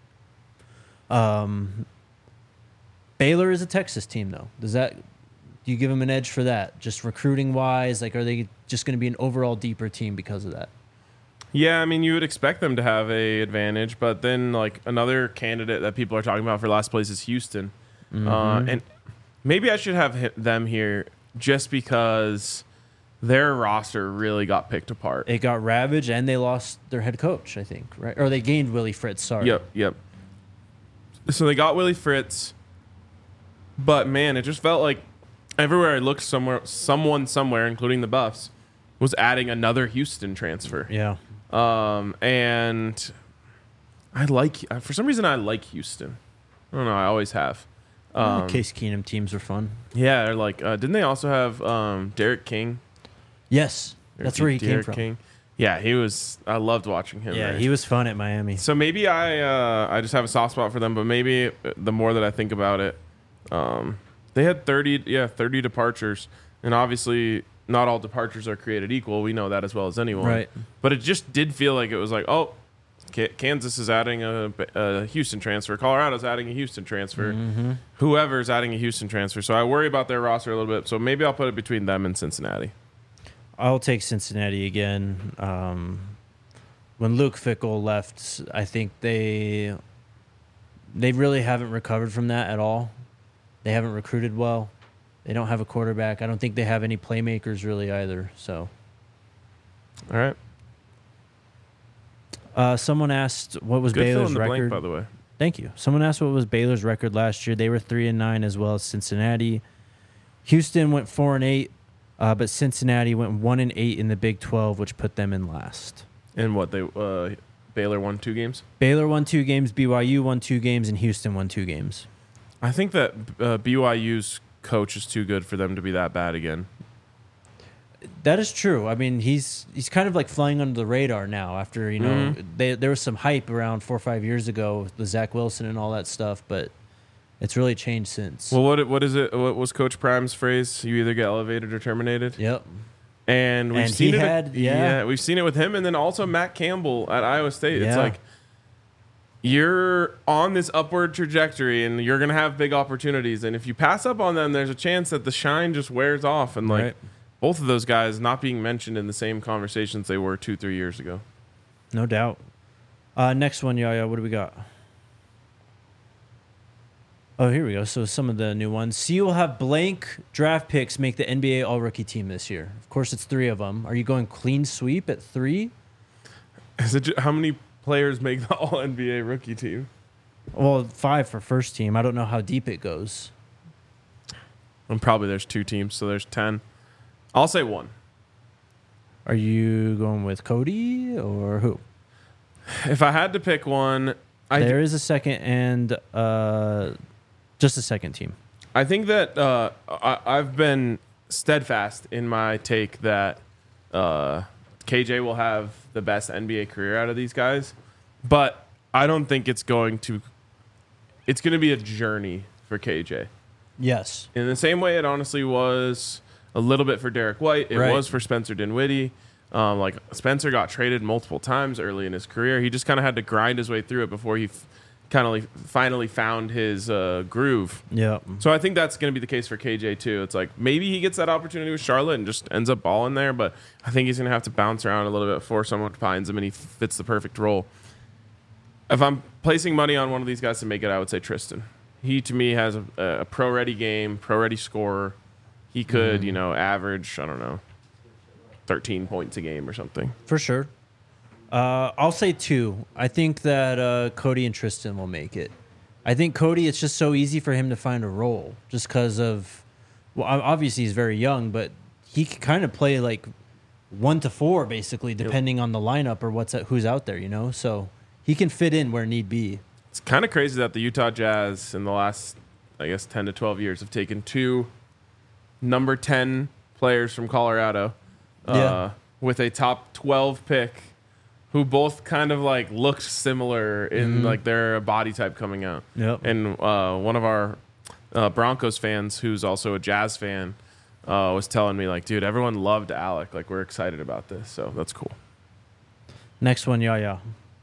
Um, Baylor is a Texas team, though. Does that do you give them an edge for that? Just recruiting wise, like are they just going to be an overall deeper team because of that? Yeah, I mean, you would expect them to have a advantage, but then like another candidate that people are talking about for last place is Houston, uh, and maybe I should have hit them here just because their roster really got picked apart. It got ravaged, and they lost their head coach, I think, right? Or they gained Willie Fritz. Sorry. Yep, yep. So they got Willie Fritz, but man, it just felt like everywhere I looked, somewhere, someone somewhere, including the Buffs, was adding another Houston transfer. Yeah. Um, and I like for some reason I like Houston. I don't know. I always have. Um, Case Keenum teams are fun. Yeah, they're like. Uh, didn't they also have um, Derek King? Yes, that's where he Derek came from. King. Yeah, he was. I loved watching him. Yeah, there. he was fun at Miami. So maybe I uh, I just have a soft spot for them, but maybe the more that I think about it, um, they had thirty yeah thirty departures, and obviously not all departures are created equal. We know that as well as anyone. Right. But it just did feel like it was like, oh, K- Kansas is adding a, a Houston transfer. Colorado's adding a Houston transfer. Mm-hmm. Whoever's adding a Houston transfer. So I worry about their roster a little bit. So maybe I'll put it between them and Cincinnati. I'll take Cincinnati again. Um, when Luke Fickell left, I think they they really haven't recovered from that at all. They haven't recruited well. They don't have a quarterback. I don't think they have any playmakers really either. So, All right. uh, someone asked what was Good fill Baylor's in the record. blank, by the way. Thank you. Someone asked what was Baylor's record last year. They were three and nine as well as Cincinnati. Houston went four and eight, uh, but Cincinnati went one and eight in the Big twelve, which put them in last. And what they uh, Baylor won two games. Baylor won two games, B Y U won two games, and Houston won two games. I think that uh, B Y U's coach is too good for them to be that bad again. That is true. I mean, he's he's kind of like flying under the radar now. After you know, Mhm. they, there was some hype around four or five years ago with the Zach Wilson and all that stuff, but it's really changed since. Well, what what is it? What was Coach Prime's phrase? You either get elevated or terminated. Yep. And we've And seen he it. had- yeah. we've seen it with him, and then also Matt Campbell at Iowa State. It's Yeah. like you're on this upward trajectory, and you're gonna have big opportunities. And if you pass up on them, there's a chance that the shine just wears off. And like Right. both of those guys not being mentioned in the same conversations they were two, three years ago. No doubt. Uh, next one, Yaya. What do we got? Oh, here we go. So some of the new ones. C will have blank draft picks make the N B A All-Rookie team this year. Of course, it's three of them. Are you going clean sweep at three? Is it ju- how many players make the All N B A rookie team? Well, five for first team. I don't know how deep it goes. And probably there's two teams, so there's ten. I'll say one. Are you going with Cody or who? If I had to pick one, I There is a second and uh, just a second team. I think that uh, I, I've been steadfast in my take that uh, K J will have the best N B A career out of these guys, but I don't think it's going to. It's going to be a journey for K J. Yes. In the same way it honestly was a little bit for Derek White. It Right. was for Spencer Dinwiddie. Um, like Spencer got traded multiple times early in his career. He just kind of had to grind his way through it before he f- kind of like finally found his uh, groove. Yeah. So I think that's going to be the case for K J too. It's like maybe he gets that opportunity with Charlotte and just ends up balling there, but I think he's going to have to bounce around a little bit before someone finds him and he fits the perfect role. If I'm placing money on one of these guys to make it, I would say Tristan. He to me has a, a pro-ready game, pro-ready scorer. He could, you know, average, I don't know, thirteen points a game or something. For sure. Uh, I'll say two. I think that uh, Cody and Tristan will make it. I think Cody, it's just so easy for him to find a role just because of, well, ob- obviously he's very young, but he can kind of play like one to four basically, depending on the lineup or what's who's out there, you know? So he can fit in where need be. It's kind of crazy that the Utah Jazz in the last, I guess, ten to twelve years have taken two number ten players from Colorado uh, Yeah. with a top twelve pick who both kind of like looked similar in Mhm. like their body type coming out. Yep. And uh, one of our uh, Broncos fans, who's also a Jazz fan, uh, was telling me like, dude, everyone loved Alec. Like, we're excited about this. So that's cool. Next one, Yaya.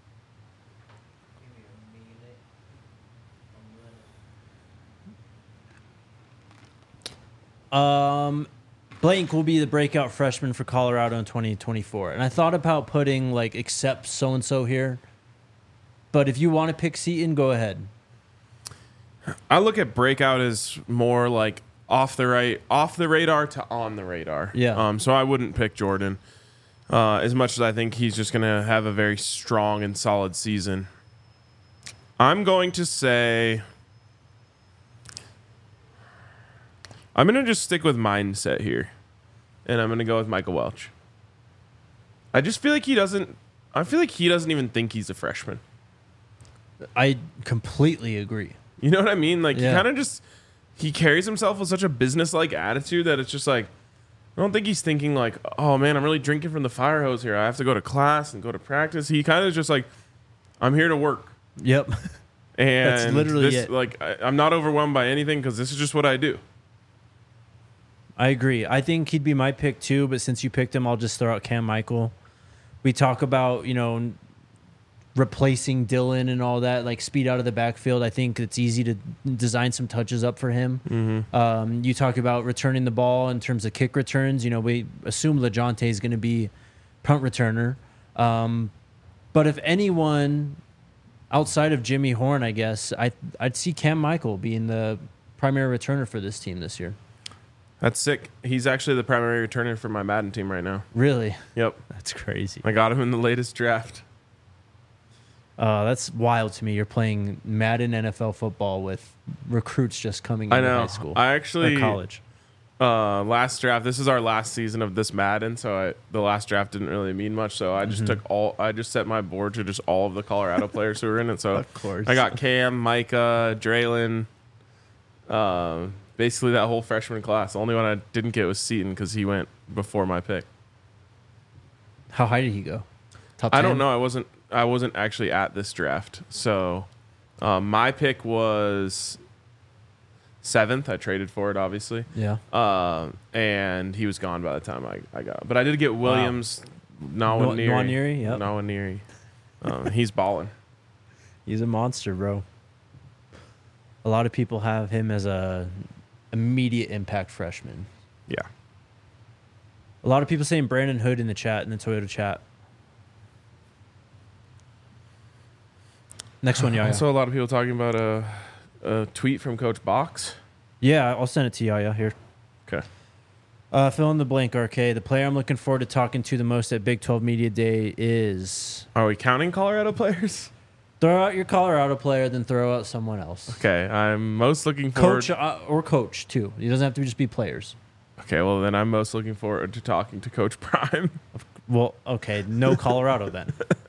Um, Blank will be the breakout freshman for Colorado in twenty twenty-four. And I thought about putting, like, except so-and-so here. But if you want to pick Seton, go ahead. I look at breakout as more like off the right, off the radar to on the radar. Yeah. Um. So I wouldn't pick Jordan, uh, as much as I think he's just gonna have a very strong and solid season. I'm going to say. I'm gonna just stick with mindset here, and I'm gonna go with Michael Welch. I just feel like he doesn't. I feel like he doesn't even think he's a freshman. I completely agree. You know what I mean? Like Yeah. he kind of just he carries himself with such a business-like attitude that it's just like I don't think he's thinking like, oh man, I'm really drinking from the fire hose here. I have to go to class and go to practice. He kind of just like, I'm here to work. Yep. And That's literally this, it. Like I, I'm not overwhelmed by anything because this is just what I do. I agree. I think he'd be my pick too, but since you picked him, I'll just throw out Cam Michael. We talk about, you know, replacing Dylan and all that, like speed out of the backfield. I think it's easy to design some touches up for him. Mm-hmm. Um, you talk about returning the ball in terms of kick returns. You know, we assume LeJounte is going to be punt returner. Um, but if anyone outside of Jimmy Horn, I guess, I, I'd see Cam Michael being the primary returner for this team this year. That's sick. He's actually the primary returner for my Madden team right now. Really? Yep. That's crazy. I got him in the latest draft. Uh, that's wild to me. You're playing Madden N F L football with recruits just coming I into know. high school I or actually college. uh, last draft. This is our last season of this Madden, so I, the last draft didn't really mean much. So I just Mm-hmm. took all. I just set my board to just all of the Colorado players who were in it. So Of course. I got Cam, Micah, Draylon, uh, basically that whole freshman class. The only one I didn't get was Seaton because he went before my pick. How high did he go? Top I ten? don't know. I wasn't. I wasn't actually at this draft. So um, my pick was seventh. I traded for it, obviously. Yeah. Uh, and he was gone by the time I, I got. But I did get Williams, Nwaneri. Nwaneri, yep. Nwaneri. Um, he's balling. He's a monster, bro. A lot of people have him as a immediate impact freshman. Yeah. A lot of people saying Brandon Hood in the chat, in the Toyota chat. Next one, I Yaya. saw a lot of people talking about a, a tweet from Coach Box. Yeah, I'll send it to Yaya here. Okay. Uh, fill in the blank, R K. The player I'm looking forward to talking to the most at Big twelve Media Day is... Are we counting Colorado players? Throw out your Colorado player, then throw out someone else. Okay. I'm most looking forward. Coach uh, or coach, too. It doesn't have to just be players. Okay. Well, then I'm most looking forward to talking to Coach Prime. Well, okay. No Colorado then.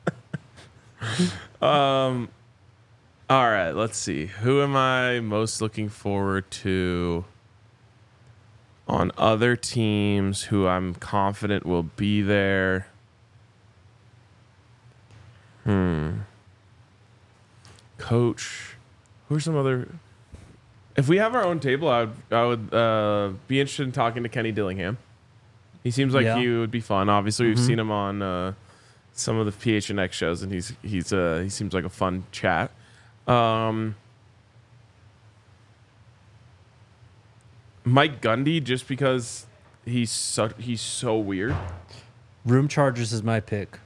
Um, all right, let's see. Who am I most looking forward to on other teams who I'm confident will be there? Hmm. Coach. Who are some other... If we have our own table, I would, I would uh, be interested in talking to Kenny Dillingham. He seems like Yeah. he would be fun. Obviously, we've Mhm. seen him on... Uh, some of the P H N X shows, and he's he's uh he seems like a fun chat. Um, Mike Gundy, just because he's so he's so weird. Room Chargers is my pick.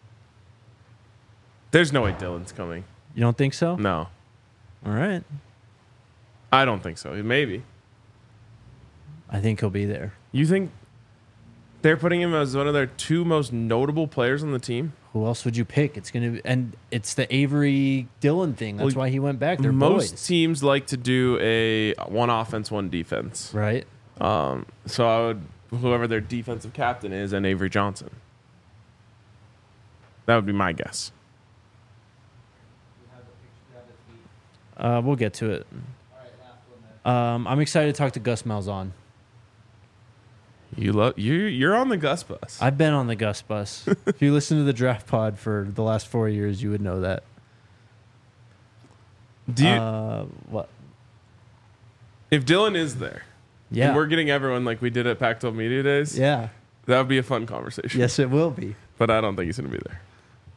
There's no way Dylan's coming. You don't think so? No, All right. I don't think so. Maybe I think he'll be there. you think they're putting him as one of their two most notable players on the team. Who else would you pick? It's gonna be, and it's the Avery Dillon thing. That's Well, why he went back. They're Most boys, teams like to do a one offense, one defense. right? Um, so I would whoever their defensive captain is, and Avery Johnson. That would be my guess. Uh, we'll get to it. Um, I'm excited to talk to Gus Malzahn. You love you. You're on the Gus bus. I've been on the Gus bus. If you listen to the Draft Pod for the last four years, you would know that. Do you, uh, what? if Dylan is there, Yeah. and we're getting everyone like we did at Pac twelve Media Days, Yeah. that would be a fun conversation. Yes, it will be. But I don't think he's going to be there.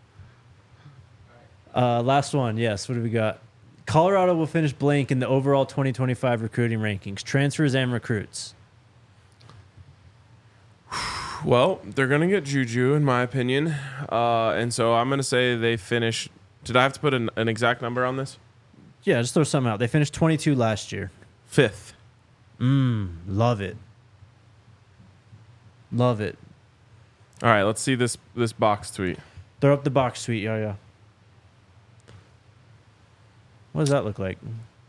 Uh, last one. Yes. What do we got? Colorado will finish blank in the overall twenty twenty-five recruiting rankings, transfers and recruits. Well, they're going to get Juju, in my opinion. Uh, and so I'm going to say they finish. Did I have to put an, an exact number on this? Yeah, just throw something out. They finished twenty-two last year. Fifth. Mmm, love it. Love it. All right, let's see this this box tweet. Throw up the box tweet, yeah, yeah. What does that look like?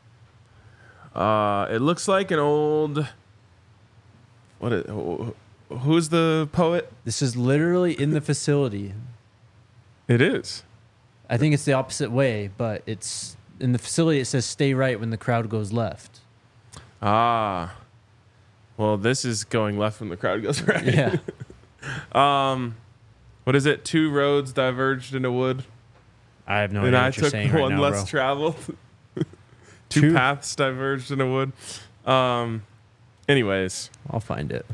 Uh, it looks like an old. What? Is, who's the poet? This is literally in the facility. It is. I think it's the opposite way, but it's in the facility. It says "Stay right" when the crowd goes left. Ah. Well, this is going left when the crowd goes right. Yeah. um, what is it? Two roads diverged in a wood, I have no and idea I what you're took saying one right now, less bro. traveled. Two, Two- paths diverged in a wood. Um, anyways, I'll find it.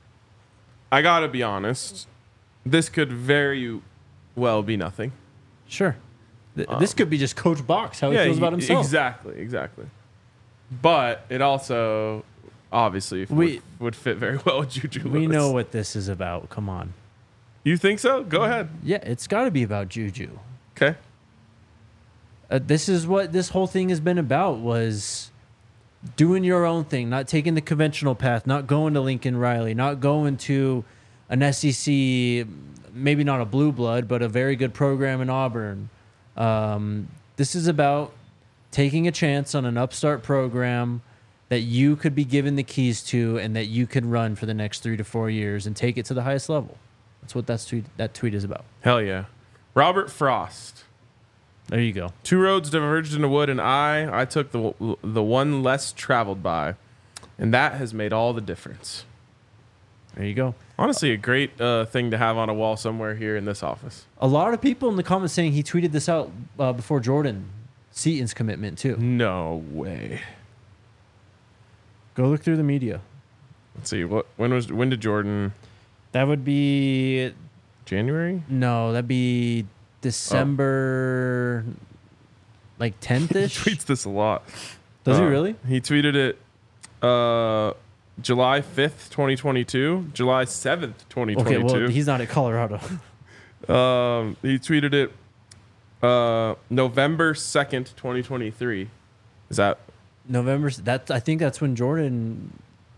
I gotta be honest. This could very well be nothing. Sure. Th- this could be just Coach Box, how he feels about y- himself. Exactly, exactly. But it also obviously We- would, would fit very well with Juju We Lewis. know what this is about. Come on. You think so? Go ahead. Yeah, it's got to be about Juju. Okay. Uh, this is what this whole thing has been about, was doing your own thing, not taking the conventional path, not going to Lincoln Riley, not going to an S E C, maybe not a blue blood, but a very good program in Auburn. Um, this is about taking a chance on an upstart program that you could be given the keys to and that you can run for the next three to four years and take it to the highest level. That's what that's tweet, that tweet is about. Hell yeah. Robert Frost. There you go. Two roads diverged in a wood, and I I took the the one less traveled by, and that has made all the difference. There you go. Honestly, a great uh, thing to have on a wall somewhere here in this office. A lot of people in the comments saying he tweeted this out uh, before Jordan Seaton's commitment too. No way. Go look through the media. Let's see. What when was when did Jordan? That would be January? no, that'd be December, like tenth He ish. tweets this a lot. Does he Uh, really? He tweeted it uh, July fifth, twenty twenty-two, July seventh, twenty Okay, twenty-two. well he's not at Colorado. Um, he tweeted it uh, November second, twenty twenty-three. Is that November. That I think that's when Jordan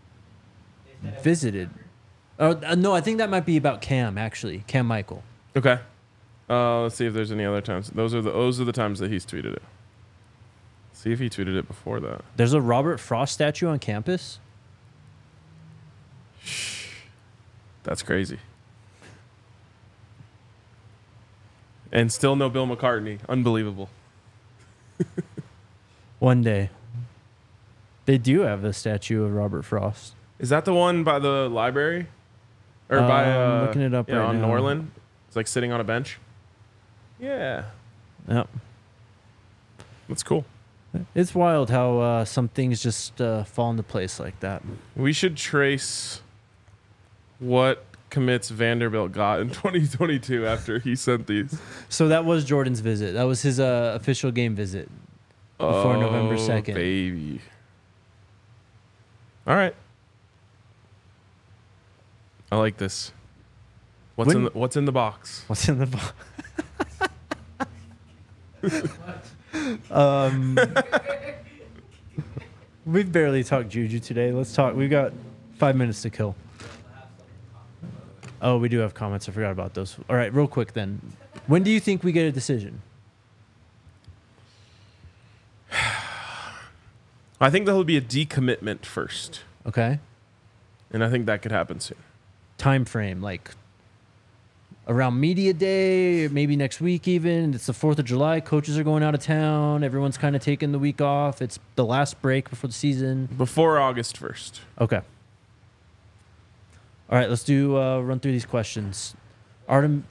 visited. Oh uh, no, I think that might be about Cam actually. Cam Michael. okay? Uh, let's see if there's any other times. Those are the those are the times that he's tweeted it. See if he tweeted it before that. There's a Robert Frost statue on campus. That's crazy. And still no Bill McCartney. Unbelievable. One day. They do have a statue of Robert Frost. Is that the one by the library? Or by Uh, I'm uh, looking it up yeah, right on now. Norland? It's like sitting on a bench. Yeah, Yep. that's cool. It's wild how uh, some things just uh, fall into place like that. We should trace what commits Vanderbilt got in twenty twenty-two after he sent these. So that was Jordan's visit. That was his uh, official game visit before Oh, November second. Baby. All right. I like this. What's When- in the, what's in the box? What's in the box? um, we've barely talked Juju today. Let's talk. We've got five minutes to kill. Oh, we do have comments. I forgot about those. All right, real quick then. When do you think we get a decision? I think there will be a decommitment first, Okay. and I think that could happen soon. Time frame, like around media day, maybe next week even. It's the fourth of July. Coaches are going out of town. Everyone's kind of taking the week off. It's the last break before the season. Before August first. Okay. All right, let's do uh, run through these questions. Artem,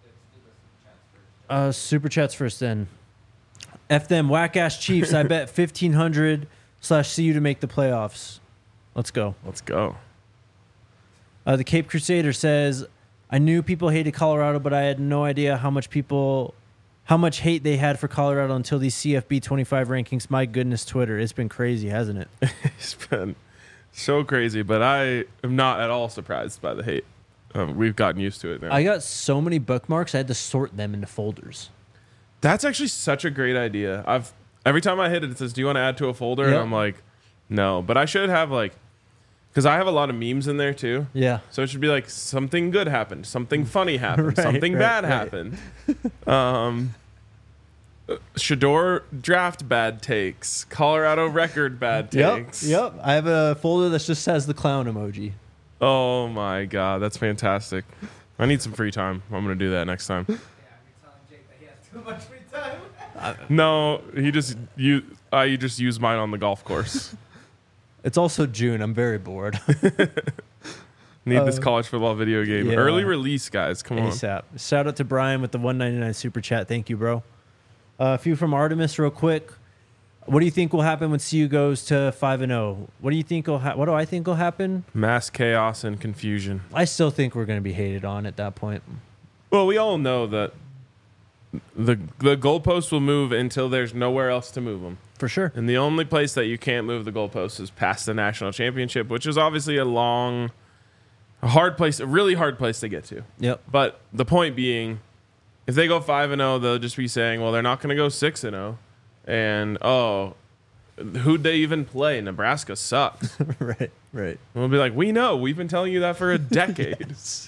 uh, super chats first then. F them whack ass Chiefs. I bet fifteen hundred slash see you to make the playoffs. Let's go. Let's go. Uh, the Cape Crusader says, I knew people hated Colorado, but I had no idea how much people, how much hate they had for Colorado until these C F B twenty-five rankings. My goodness, Twitter. It's been crazy, hasn't it? It's been so crazy, but I am not at all surprised by the hate. Um, we've gotten used to it now. I got so many bookmarks, I had to sort them into folders. That's actually such a great idea. I've every time I hit it, it says, "Do you want to add to a folder?" Yep. And I'm like, "No," but I should have like Because I have a lot of memes in there too. Yeah. So it should be like something good happened, something funny happened, Right, something right, bad right. happened. Um, Shador draft bad takes, Colorado record bad Yep. takes. Yep. I have a folder that just has the clown emoji. Oh my god, that's fantastic. I need some free time. I'm gonna do that next time. Yeah, you're telling Jake that he has too much free time. No, he just you. I just use mine on the golf course. It's also June. I'm very bored. Need this Uh, college football video game. yeah. Early release, guys. Come on. ASAP. Shout out to Brian with the one ninety-nine super chat. Thank you, bro. Uh, a few from Artemis, real quick. What do you think will happen when C U goes to five and zero? What do you think will? Ha- what do I think will happen? Mass chaos and confusion. I still think we're going to be hated on at that point. Well, we all know that the the goalposts will move until there's nowhere else to move them. For sure. And the only place that you can't move the goalposts is past the national championship, which is obviously a long, a hard place, a really hard place to get to. Yep. But the point being, if they go five and zero, they'll just be saying, well, they're not going to go six and zero, and oh, who'd they even play? Nebraska sucks. right. Right. And we'll be like, we know, we've been telling you that for a decade. Yes.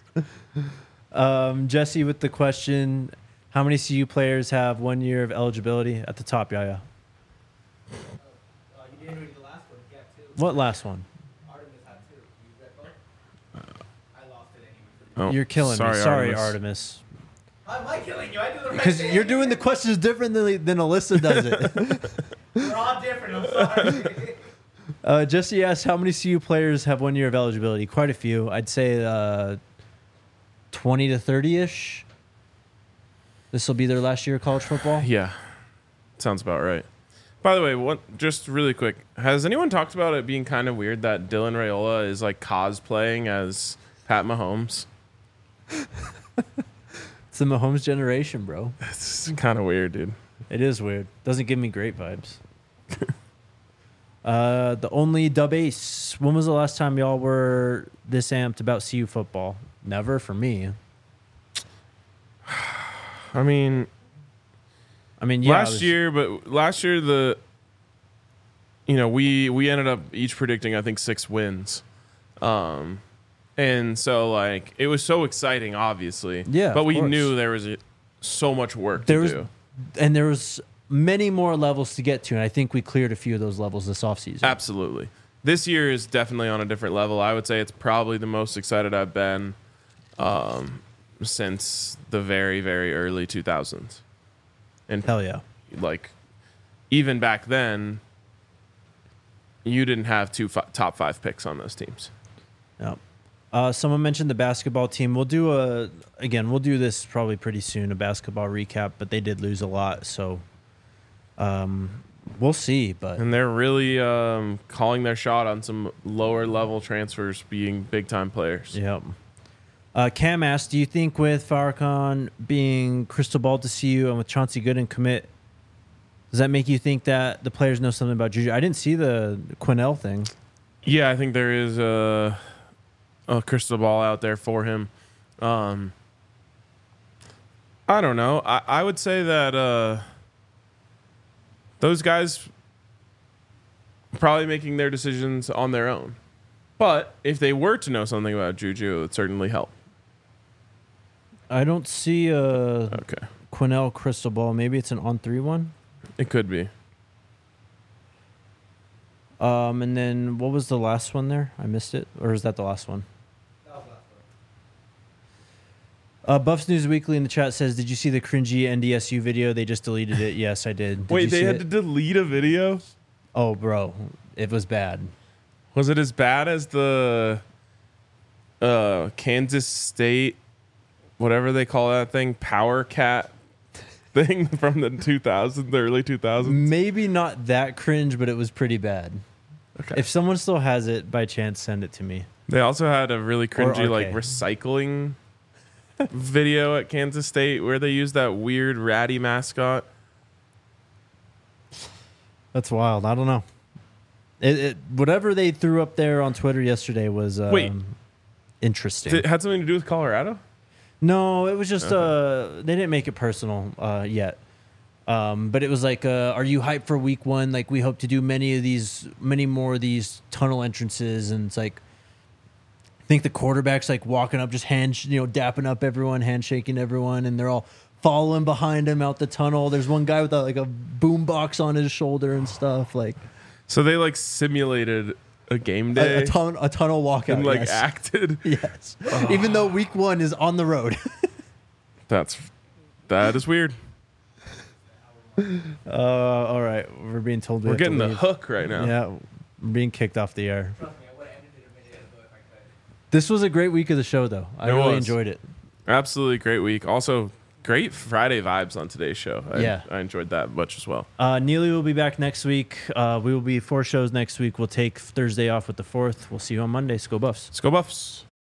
Um, Jesse with the question: how many C U players have one year of eligibility at the top? Yeah, yeah. Uh, you didn't read the last one. Yeah, two. What last one? Artemis had two. You read both? I lost it anyway. Oh, You're killing sorry, me. Sorry, Artemis. Artemis. How am I killing you? I do the right Because thing. you're doing the questions differently than Alyssa does it. We're all different. I'm sorry. uh, Jesse asked, how many C U players have one year of eligibility? Quite a few. I'd say uh, twenty to thirty-ish. This will be their last year of college football. Yeah, sounds about right. By the way, what? Just really quick, has anyone talked about it being kind of weird that Dylan Raiola is like cosplaying as Pat Mahomes? It's the Mahomes generation, bro. It's kind of weird, dude. It is weird. Doesn't give me great vibes. uh, the only dub ace. When was the last time y'all were this amped about C U football? Never for me. I mean, I mean, yeah, it last was- year, but last year the, you know, we we ended up each predicting I think six wins, um, and so like it was so exciting, obviously. Yeah, but of we course. knew there was a, so much work There to was- do. and there was many more levels to get to, and I think we cleared a few of those levels this offseason. Absolutely. This year is definitely on a different level. I would say it's probably the most excited I've been um, since the very, very early two thousands. And Hell yeah. like, even back then, you didn't have two fi- top five picks on those teams. Yeah. Uh, someone mentioned the basketball team. We'll do a again. We'll do this probably pretty soon. A basketball recap, but they did lose a lot, so um, we'll see. But And they're really um, calling their shot on some lower level transfers being big time players. Yep. Uh, Cam asked, do you think with Farrakhan being crystal ball to C U and with Chauncey Gooden commit, does that make you think that the players know something about Juju? I didn't see the Quinnell thing. Yeah, I think there is a, a crystal ball out there for him. Um, I don't know. I, I would say that uh, those guys probably making their decisions on their own. But if they were to know something about Juju, it would certainly help. I don't see a Okay. Quinnell crystal ball. Maybe it's an on three one. It could be. Um, and then what was the last one there? I missed it, or is that the last one? That was last one. Uh, Buffs News Weekly in the chat says, "Did you see the cringy N D S U video? They just deleted it." Yes, I did. Did Wait, you they see had it? to delete a video? Oh, bro, it was bad. Was it as bad as the uh, Kansas State, whatever they call that thing, Power Cat thing from the two thousands, the early two thousands? Maybe not that cringe, but it was pretty bad. Okay. If someone still has it, by chance, send it to me. They also had a really cringy like arcade. recycling video at Kansas State where they used that weird ratty mascot. That's wild. I don't know. It, it whatever they threw up there on Twitter yesterday was um, Wait. interesting. It had something to do with Colorado? No, it was just uh, they didn't make it personal uh, yet. Um, but it was like, uh, are you hyped for week one? Like, we hope to do many of these, many more of these tunnel entrances. And it's like, I think the quarterback's like walking up, just hand, you know, dapping up everyone, handshaking everyone, and they're all following behind him out the tunnel. There's one guy with a, like a boom box on his shoulder and stuff. Like, So they like simulated a game a, day a, ton, a tunnel walkout. and like yes. acted. Yes. Even though week one is on the road. That's that is weird. Uh, all right. We're being told we We're have to getting the leave. hook right now. Yeah. We're being kicked off the air. Trust me, I would have ended it a minute ago if I could. This was a great week of the show, though. I It really was. enjoyed it. Absolutely great week. Also, great Friday vibes on today's show. I, Yeah. I enjoyed that much as well. Uh, Neely will be back next week. Uh, we will be four shows next week. We'll take Thursday off with the fourth. We'll see you on Monday. Go Buffs. Let's go Buffs.